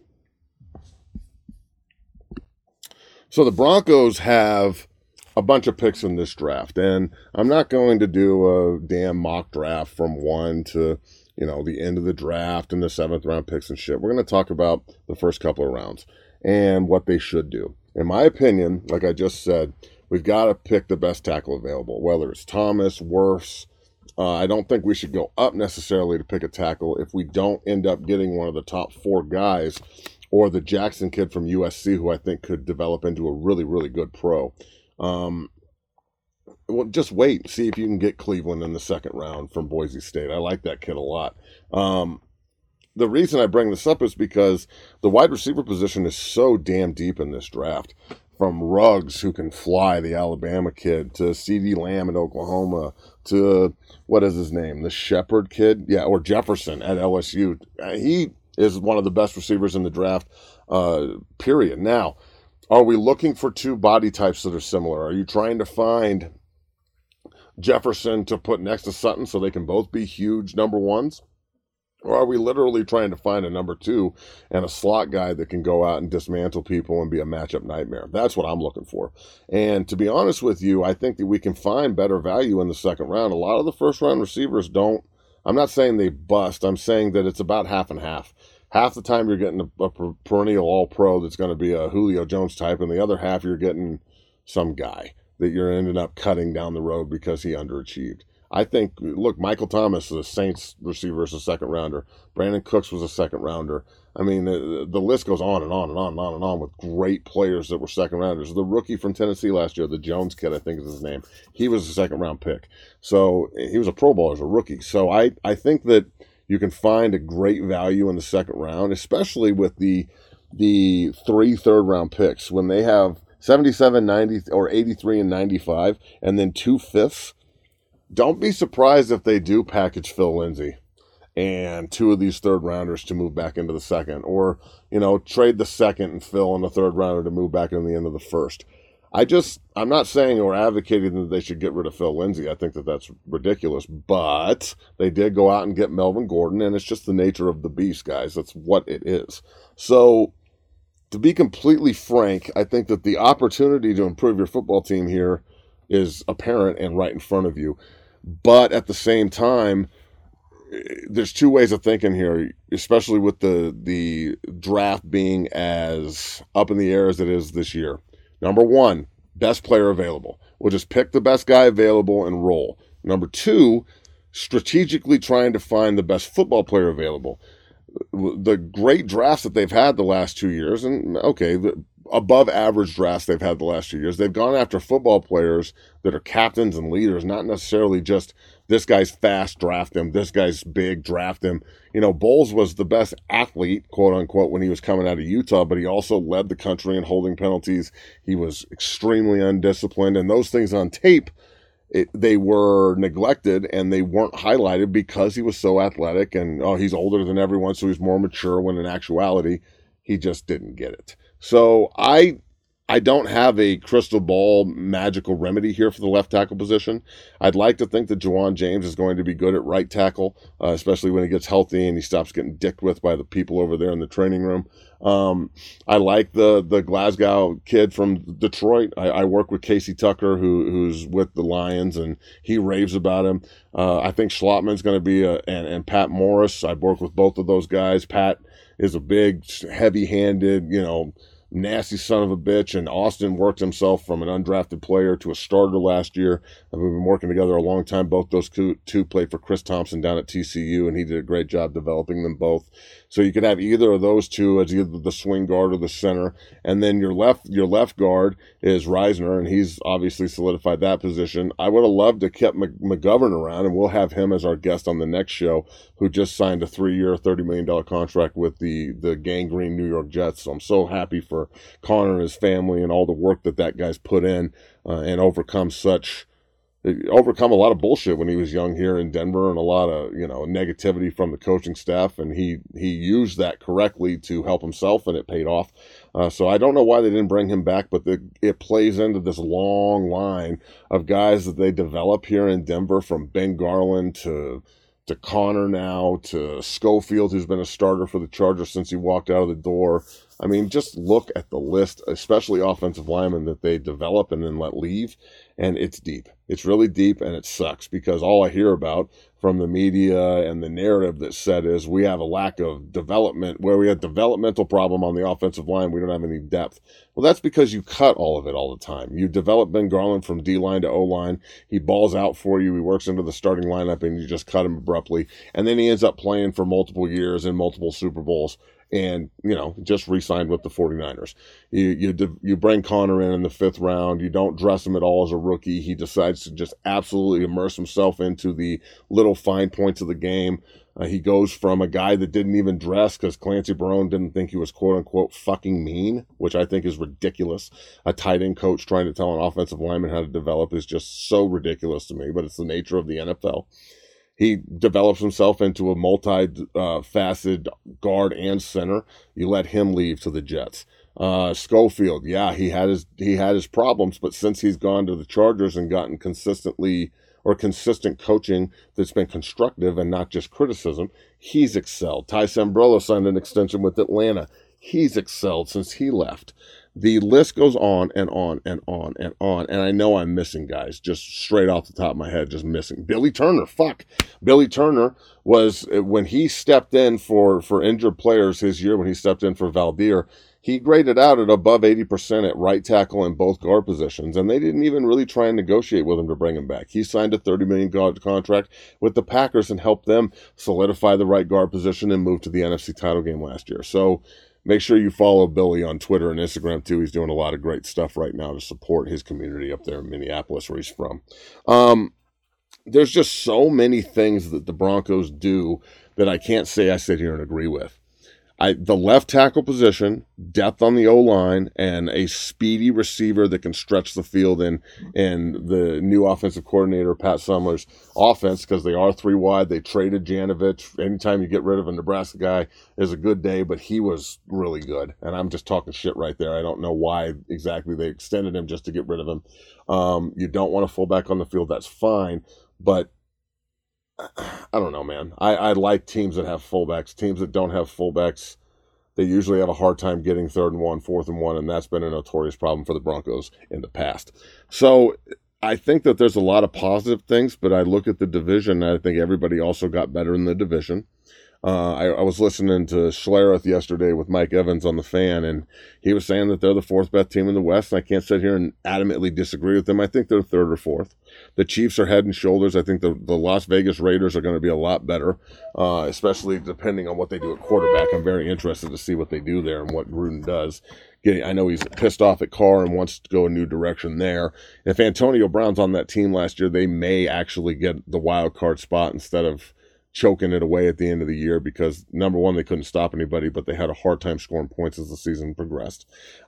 So the Broncos have a bunch of picks in this draft, and I'm not going to do a damn mock draft from 1 to, the end of the draft and the 7th round picks and shit. We're going to talk about the first couple of rounds and what they should do. In my opinion, like I just said, we've got to pick the best tackle available, whether it's Thomas, Wirfs, I don't think we should go up necessarily to pick a tackle if we don't end up getting one of the top 4 guys, or the Jackson kid from USC, who I think could develop into a really, really good pro. Well, just wait, see if you can get Cleveland in the second round from Boise State. I like that kid a lot. The reason I bring this up is because the wide receiver position is so damn deep in this draft. From Ruggs, who can fly, the Alabama kid, to CeeDee Lamb at Oklahoma, to, what is his name, the Shepherd kid? Yeah, or Jefferson at LSU. He is one of the best receivers in the draft, period. Now, are we looking for 2 body types that are similar? Are you trying to find Jefferson to put next to Sutton so they can both be huge number 1s? Or are we literally trying to find a number 2 and a slot guy that can go out and dismantle people and be a matchup nightmare? That's what I'm looking for. And to be honest with you, I think that we can find better value in the second round. A lot of the first round receivers don't. I'm not saying they bust. I'm saying that it's about half and half. Half the time you're getting a perennial all-pro that's going to be a Julio Jones type, and the other half you're getting some guy that you're ending up cutting down the road because he underachieved. I think, look, Michael Thomas, the Saints receiver, is a second rounder. Brandon Cooks was a second rounder. I mean, the list goes on and on and on and on and on with great players that were second rounders. The rookie from Tennessee last year, the Jones kid, I think is his name, he was a second round pick. So he was a Pro Bowler as a rookie. So I think that you can find a great value in the second round, especially with the 3 third-round picks. When they have 77, 90, or 83 and 95, and then 2 fifths, don't be surprised if they do package Phil Lindsay and 2 of these third rounders to move back into the second, or, trade the second and Phil and the third rounder to move back into the end of the first. I'm not saying or advocating that they should get rid of Phil Lindsay. I think that that's ridiculous, but they did go out and get Melvin Gordon, and it's just the nature of the beast, guys. That's what it is. So, to be completely frank, I think that the opportunity to improve your football team here is apparent and right in front of you. But at the same time, there's 2 ways of thinking here, especially with the draft being as up in the air as it is this year. Number 1, best player available. We'll just pick the best guy available and roll. Number 2, strategically trying to find the best football player available. The great drafts that they've had the last 2 years, and okay, the above average drafts they've had the last 2 years, they've gone after football players that are captains and leaders, not necessarily just this guy's fast, draft him, this guy's big, draft him. Bowles was the best athlete, quote unquote, when he was coming out of Utah, but he also led the country in holding penalties. He was extremely undisciplined, and those things on tape, they were neglected and they weren't highlighted because he was so athletic and, he's older than everyone, so he's more mature, when in actuality, he just didn't get it. So I don't have a crystal ball magical remedy here for the left tackle position. I'd like to think that Juwan James is going to be good at right tackle, especially when he gets healthy and he stops getting dicked with by the people over there in the training room. I like the Glasgow kid from Detroit. I work with Casey Tucker, who's with the Lions, and he raves about him. I think Schlottman's going to be and Pat Morris. I've worked with both of those guys. Pat is a big, heavy-handed, nasty son of a bitch, and Austin worked himself from an undrafted player to a starter last year. We've been working together a long time. Both those two played for Chris Thompson down at TCU, and he did a great job developing them both. So you could have either of those two as either the swing guard or the center, and then your left guard is Reisner, and he's obviously solidified that position. I would have loved to keep McGovern around, and we'll have him as our guest on the next show, who just signed a 3-year, $30 million contract with the gangrene New York Jets. So I'm so happy for Connor and his family and all the work that guy's put in and overcome a lot of bullshit when he was young here in Denver, and a lot of negativity from the coaching staff, and he used that correctly to help himself, and it paid off. So I don't know why they didn't bring him back, but it plays into this long line of guys that they develop here in Denver, from Ben Garland to Connor now, to Schofield, who's been a starter for the Chargers since he walked out of the door. I mean, just look at the list, especially offensive linemen that they develop and then let leave, and it's deep. It's really deep, and it sucks because all I hear about from the media and the narrative that's said is we have a lack of development, where we have developmental problem on the offensive line. We don't have any depth. Well, that's because you cut all of it all the time. You develop Ben Garland from D-line to O-line. He balls out for you. He works into the starting lineup, and you just cut him abruptly. And then he ends up playing for multiple years in multiple Super Bowls. And, just re-signed with the 49ers. You bring Connor in the 5th round. You don't dress him at all as a rookie. He decides to just absolutely immerse himself into the little fine points of the game. He goes from a guy that didn't even dress because Clancy Barone didn't think he was quote-unquote fucking mean, which I think is ridiculous. A tight end coach trying to tell an offensive lineman how to develop is just so ridiculous to me, but it's the nature of the NFL. He develops himself into a multi-faceted guard and center. You let him leave to the Jets. Schofield, yeah, he had his problems, but since he's gone to the Chargers and gotten consistent coaching that's been constructive and not just criticism, he's excelled. Ty Sambrello signed an extension with Atlanta. He's excelled since he left. The list goes on and on and on and on. And I know I'm missing guys just straight off the top of my head, just missing. Billy Turner, Billy Turner was, when he stepped in for injured players his year, when he stepped in for Valdir, he graded out at above 80% at right tackle in both guard positions. And they didn't even really try and negotiate with him to bring him back. He signed a $30 million contract with the Packers and helped them solidify the right guard position and move to the NFC title game last year. So, make sure you follow Billy on Twitter and Instagram, too. He's doing a lot of great stuff right now to support his community up there in Minneapolis, where he's from. There's just so many things that the Broncos do that I can't say I sit here and agree with. The left tackle position, depth on the O-line, and a speedy receiver that can stretch the field in the new offensive coordinator, Pat Summer's offense, because they are 3 wide. They traded Janovich. Anytime you get rid of a Nebraska guy is a good day, but he was really good. And I'm just talking shit right there. I don't know why exactly they extended him just to get rid of him. You don't want a fullback on the field. That's fine. But I don't know, man. I like teams that have fullbacks. Teams that don't have fullbacks, they usually have a hard time getting 3rd and 1, 4th and 1, and that's been a notorious problem for the Broncos in the past. So I think that there's a lot of positive things, but I look at the division, and I think everybody also got better in the division. I was listening to Schlereth yesterday with Mike Evans on The Fan, and he was saying that they're the 4th best team in the West, and I can't sit here and adamantly disagree with them. I think they're 3rd or 4th. The Chiefs are head and shoulders. I think the Las Vegas Raiders are going to be a lot better, especially depending on what they do at quarterback. I'm very interested to see what they do there and what Gruden does. I know he's pissed off at Carr and wants to go a new direction there. If Antonio Brown's on that team last year, they may actually get the wild card spot instead of choking it away at the end of the year because, number one, they couldn't stop anybody, but they had a hard time scoring points as the season progressed.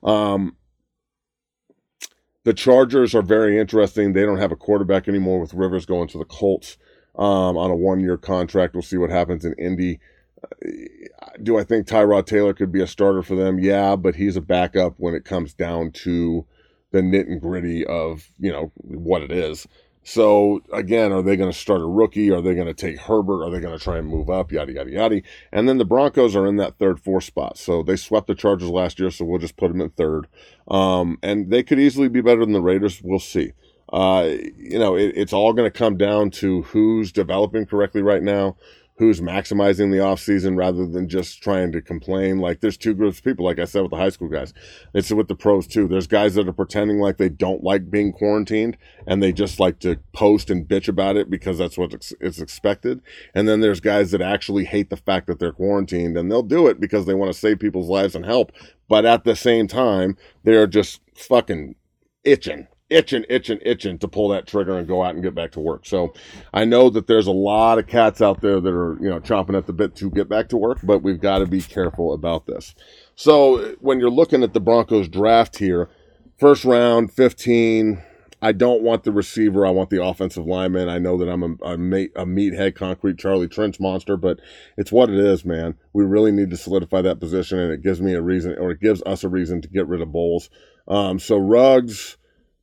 The Chargers are very interesting. They don't have a quarterback anymore with Rivers going to the Colts on a 1-year contract. We'll see what happens in Indy. Do I think Tyrod Taylor could be a starter for them? Yeah, but he's a backup when it comes down to the nit and gritty of, what it is. So, again, are they going to start a rookie? Are they going to take Herbert? Are they going to try and move up? Yada, yada, yada. And then the Broncos are in that 3rd, 4th spot. So they swept the Chargers last year, so we'll just put them in 3rd. And they could easily be better than the Raiders. We'll see. It's all going to come down to who's developing correctly right now, who's maximizing the offseason rather than just trying to complain. Like, there's 2 groups of people, like I said, with the high school guys. It's with the pros, too. There's guys that are pretending like they don't like being quarantined, and they just like to post and bitch about it because that's what it's expected. And then there's guys that actually hate the fact that they're quarantined, and they'll do it because they want to save people's lives and help. But at the same time, they're just fucking itching to pull that trigger and go out and get back to work. So I know that there's a lot of cats out there that are, chomping at the bit to get back to work, but we've got to be careful about this. So when you're looking at the Broncos draft here, 1st round, 15, I don't want the receiver. I want the offensive lineman. I know that I'm a meathead, concrete Charlie Trench monster, but it's what it is, man. We really need to solidify that position, and it gives me a reason, or it gives us a reason to get rid of Bowles. So Ruggs,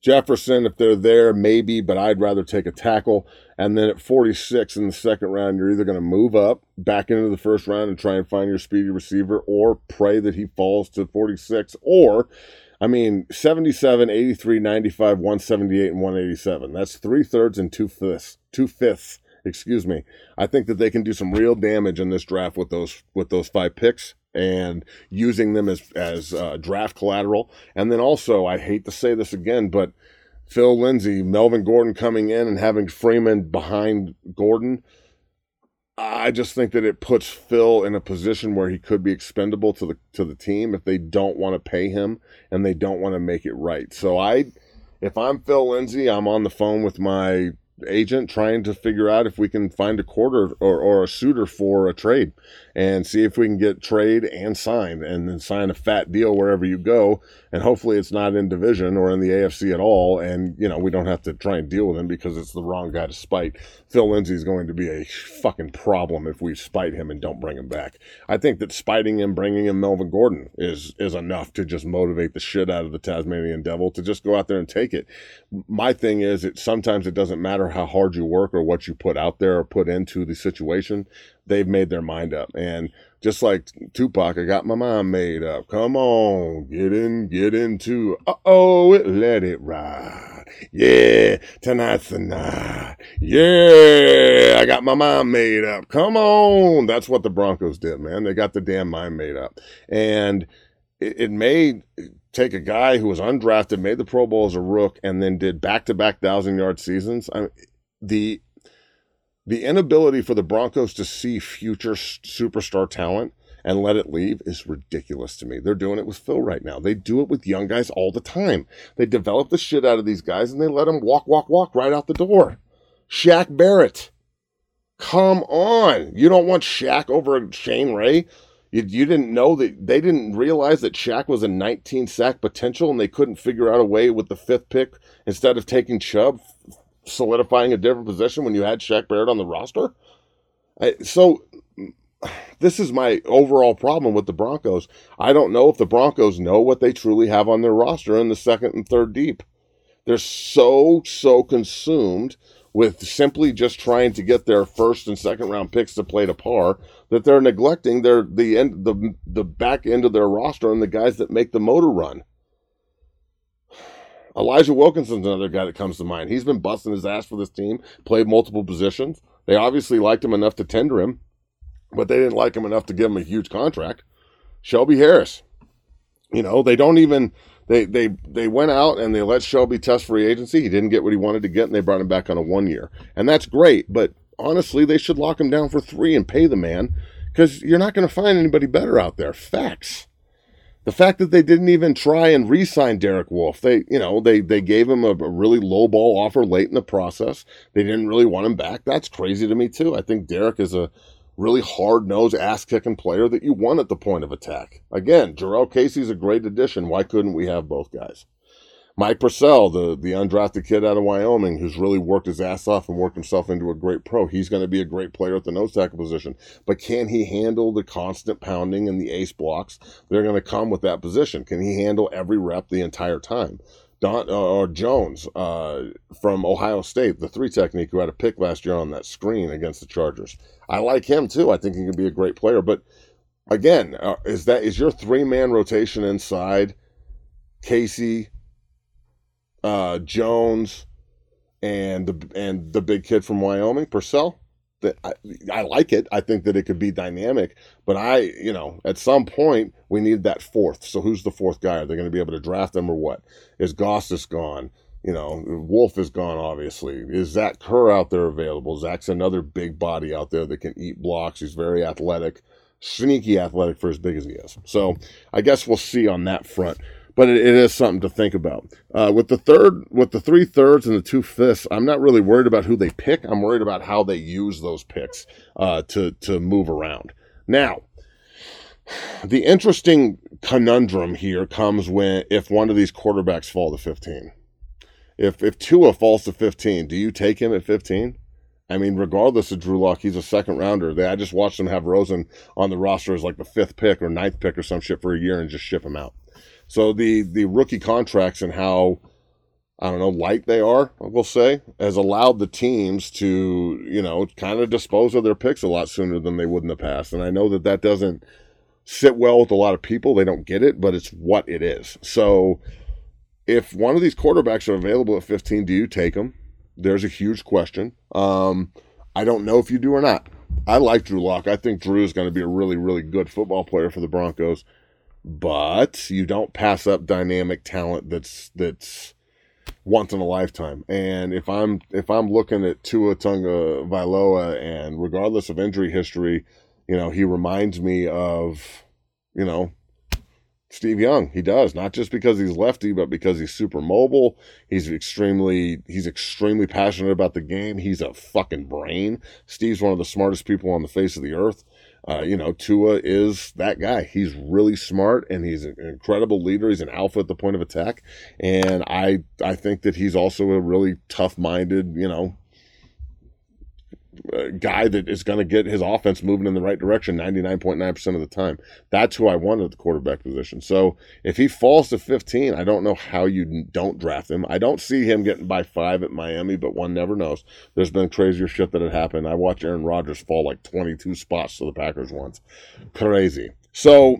Jefferson, if they're there, maybe, but I'd rather take a tackle. And then at 46 in the second round, you're either going to move up back into the first round and try and find your speedy receiver, or pray that he falls to 46. Or, 77, 83, 95, 178, and 187. That's 3/3 and 2/5. Excuse me. I think that they can do some real damage in this draft with those 5 picks, and using them as draft collateral. And then also, I hate to say this again, but Phil Lindsay, Melvin Gordon coming in and having Freeman behind Gordon, I just think that it puts Phil in a position where he could be expendable to the team if they don't want to pay him and they don't want to make it right. So if I'm Phil Lindsay, I'm on the phone with my agent trying to figure out if we can find a quarter or a suitor for a trade, and see if we can get trade and signed, and then sign a fat deal wherever you go. And hopefully it's not in division or in the AFC at all, and we don't have to try and deal with him because it's the wrong guy to spite. Phil Lindsay is going to be a fucking problem if we spite him and don't bring him back. I think that spiting him, bringing in Melvin Gordon is enough to just motivate the shit out of the Tasmanian Devil to just go out there and take it. My thing is, sometimes it doesn't matter how hard you work or what you put out there or put into the situation. They've made their mind up. And just like Tupac, I got my mind made up. Come on, get into, let it ride. Yeah, tonight's the night. Yeah, I got my mind made up. Come on. That's what the Broncos did, man. They got the damn mind made up. And it may take a guy who was undrafted, made the Pro Bowl as a rook, and then did back-to-back 1,000-yard seasons. The inability for the Broncos to see future superstar talent and let it leave is ridiculous to me. They're doing it with Phil right now. They do it with young guys all the time. They develop the shit out of these guys, and they let them walk right out the door. Shaq Barrett. Come on. You don't want Shaq over Shane Ray? You didn't know that they didn't realize that Shaq was a 19-sack potential, and they couldn't figure out a way with the 5th pick instead of taking Chubb, solidifying a different position when you had Shaq Barrett on the roster. So this is my overall problem with the Broncos. I don't know if the Broncos know what they truly have on their roster in the 2nd and 3rd deep. They're so consumed with simply just trying to get their 1st and 2nd round picks to play to par that they're neglecting the back end of their roster and the guys that make the motor run. Elijah Wilkinson's another guy that comes to mind. He's been busting his ass for this team, played multiple positions. They obviously liked him enough to tender him, but they didn't like him enough to give him a huge contract. Shelby Harris. They don't even... They went out and they let Shelby test free agency. He didn't get what he wanted to get, and they brought him back on a 1 year. And that's great, but honestly, they should lock him down for 3 and pay the man, because you're not going to find anybody better out there. Facts. The fact that they didn't even try and re-sign Derek Wolfe, they gave him a really low-ball offer late in the process. They didn't really want him back. That's crazy to me, too. I think Derek is a really hard-nosed, ass-kicking player that you want at the point of attack. Again, Jarrell Casey's a great addition. Why couldn't we have both guys? Mike Purcell, the undrafted kid out of Wyoming, who's really worked his ass off and worked himself into a great pro. He's going to be a great player at the nose tackle position. But can he handle the constant pounding and the ace blocks that are going to come with that position? Can he handle every rep the entire time? Jones from Ohio State, the 3 technique, who had a pick last year on that screen against the Chargers. I like him too. I think he can be a great player. But again, is your 3-man rotation inside Casey, Jones, and the big kid from Wyoming, Purcell? I like it. I think that it could be dynamic, but at some point we need that 4th. So who's the 4th guy? Are they going to be able to draft them or what? Is Gostis gone? Wolf is gone, obviously. Is Zach Kerr out there available? Zach's another big body out there that can eat blocks. He's very athletic, sneaky athletic for as big as he is. So I guess we'll see on that front. But it is something to think about. With the 3/3 and the 2/5, I'm not really worried about who they pick. I'm worried about how they use those picks to move around. Now, the interesting conundrum here comes if one of these quarterbacks fall to 15. If Tua falls to 15, do you take him at 15? Regardless of Drew Lock, he's a 2nd rounder. I just watched them have Rosen on the roster as like the 5th pick or 9th pick or some shit for a year and just ship him out. So the rookie contracts and how I don't know, light they are, we'll say, has allowed the teams to, you know, kind of dispose of their picks a lot sooner than they would in the past. And I know that that doesn't sit well with a lot of people. They don't get it, but it's what it is. So if one of these quarterbacks are available at 15, do you take them? There's a huge question. I don't know if you do or not. I like Drew Lock. I think Drew is going to be a really, really good football player for the Broncos. But you don't pass up dynamic talent that's once in a lifetime. And if I'm looking at Tua Tagovailoa, and regardless of injury history, you know, he reminds me of, you know, Steve Young. He does, not just because he's lefty, but because he's super mobile. He's extremely passionate about the game. He's a fucking brain. Steve's one of the smartest people on the face of the earth. You know, Tua is that guy. He's really smart, and he's an incredible leader. He's an alpha at the point of attack. And I think that he's also a really tough-minded, you know, guy that is going to get his offense moving in the right direction 99.9% of the time. That's who I want at the quarterback position. So if he falls to 15, I don't know how you don't draft him. I don't see him getting by 5 at Miami, but one never knows. There's been crazier shit that had happened. I watched Aaron Rodgers fall like 22 spots to the Packers once. Crazy. So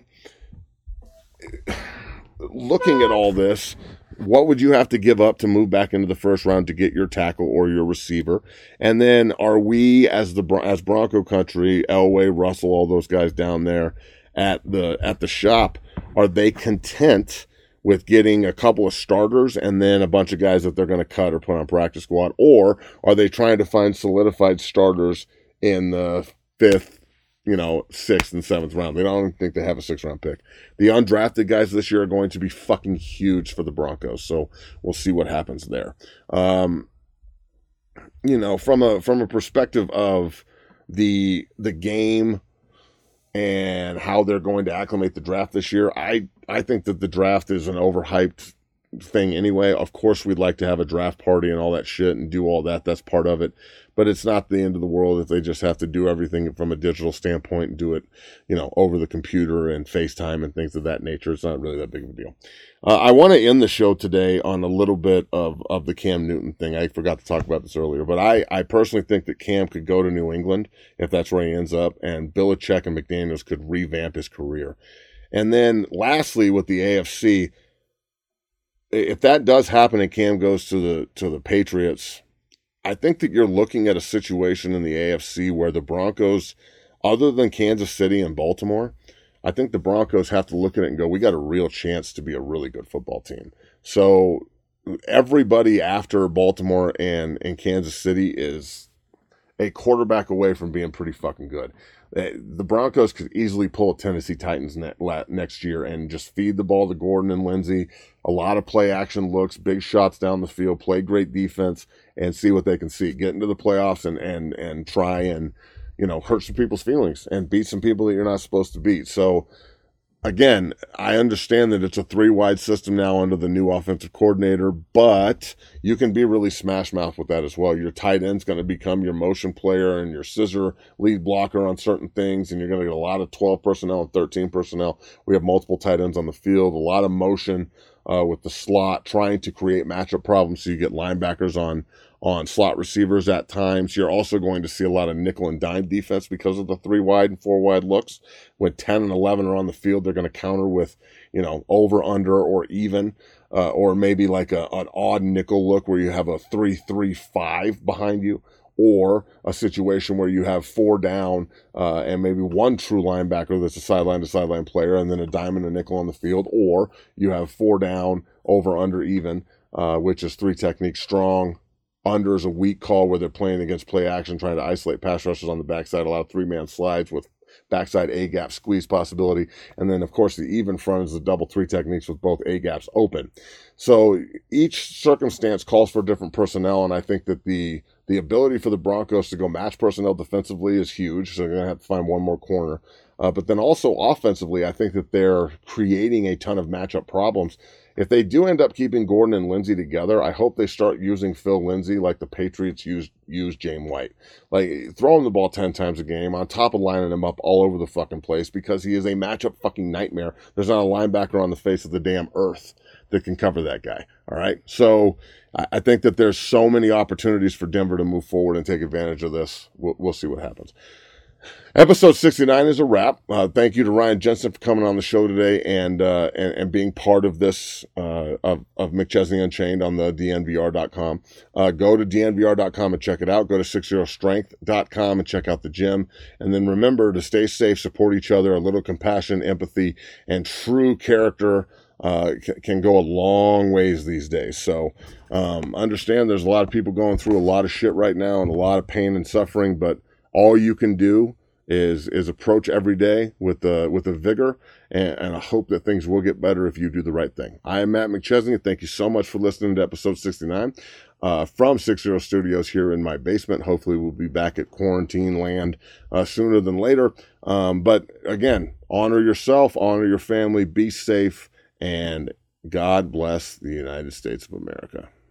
looking at all this, what would you have to give up to move back into the first round to get your tackle or your receiver? And then are we, as Bronco country, Elway, Russell, all those guys down there at the shop, are they content with getting a couple of starters and then a bunch of guys that they're going to cut or put on practice squad? Or are they trying to find solidified starters in the 5th, you know, 6th and 7th round? They don't think they have a 6th round pick. The undrafted guys this year are going to be fucking huge for the Broncos. So we'll see what happens there. You know, from a perspective of the game and how they're going to acclimate the draft this year, I think that the draft is an overhyped thing anyway. Of course, we'd like to have a draft party and all that shit and do all that. That's part of it. But it's not the end of the world if they just have to do everything from a digital standpoint and do it, you know, over the computer and FaceTime and things of that nature. It's not really that big of a deal. I want to end the show today on a little bit of the Cam Newton thing. I forgot to talk about this earlier, but I personally think that Cam could go to New England if that's where he ends up, and Belichick and McDaniels could revamp his career. And then lastly, with the AFC, if that does happen and Cam goes to the Patriots, I think that you're looking at a situation in the AFC where the Broncos, other than Kansas City and Baltimore, I think the Broncos have to look at it and go, we got a real chance to be a really good football team. So everybody after Baltimore and Kansas City is a quarterback away from being pretty fucking good. The Broncos could easily pull a Tennessee Titans next year and just feed the ball to Gordon and Lindsey. A lot of play action looks, big shots down the field, play great defense, and see what they can see. Get into the playoffs and try and, you know, hurt some people's feelings and beat some people that you're not supposed to beat. So, again, I understand that it's a 3-wide system now under the new offensive coordinator, but you can be really smash mouth with that as well. Your tight end's going to become your motion player and your scissor lead blocker on certain things, and you're going to get a lot of 12 personnel and 13 personnel. We have multiple tight ends on the field, a lot of motion with the slot, trying to create matchup problems so you get linebackers on slot receivers at times. You're also going to see a lot of nickel and dime defense because of the 3-wide and 4-wide looks. When 10 and 11 are on the field, they're going to counter with, you know, over, under, or even, or maybe like an odd nickel look where you have a 3-3-5 behind you, or a situation where you have 4 down and maybe one true linebacker that's a sideline-to-sideline player and then a dime and a nickel on the field, or you have 4 down, over, under, even, which is 3 technique strong. Under is a weak call where they're playing against play action, trying to isolate pass rushers on the backside, allow 3-man slides with backside A-gap squeeze possibility. And then, of course, the even front is the double 3 techniques with both A-gaps open. So each circumstance calls for different personnel, and I think that the ability for the Broncos to go match personnel defensively is huge, so they're going to have to find one more corner. But then also offensively, I think that they're creating a ton of matchup problems. if they do end up keeping Gordon and Lindsey together, I hope they start using Phil Lindsay like the Patriots used James White. Like, throw him the ball 10 times a game on top of lining him up all over the fucking place, because he is a matchup fucking nightmare. There's not a linebacker on the face of the damn earth that can cover that guy. All right. So I think that there's so many opportunities for Denver to move forward and take advantage of this. We'll see what happens. Episode 69 is a wrap. Thank you to Ryan Jensen for coming on the show today and being part of this, of McChesney Unchained on the DNVR.com. Go to DNVR.com and check it out. Go to 60strength.com and check out the gym. And then remember to stay safe, support each other. A little compassion, empathy, and true character can go a long ways these days. So understand there's a lot of people going through a lot of shit right now and a lot of pain and suffering, but all you can do is approach every day with a vigor, and I hope that things will get better if you do the right thing. I am Matt McChesney. Thank you so much for listening to episode 69 from 60 Studios here in my basement. Hopefully we'll be back at quarantine land sooner than later. But again, honor yourself, honor your family, be safe, and God bless the United States of America.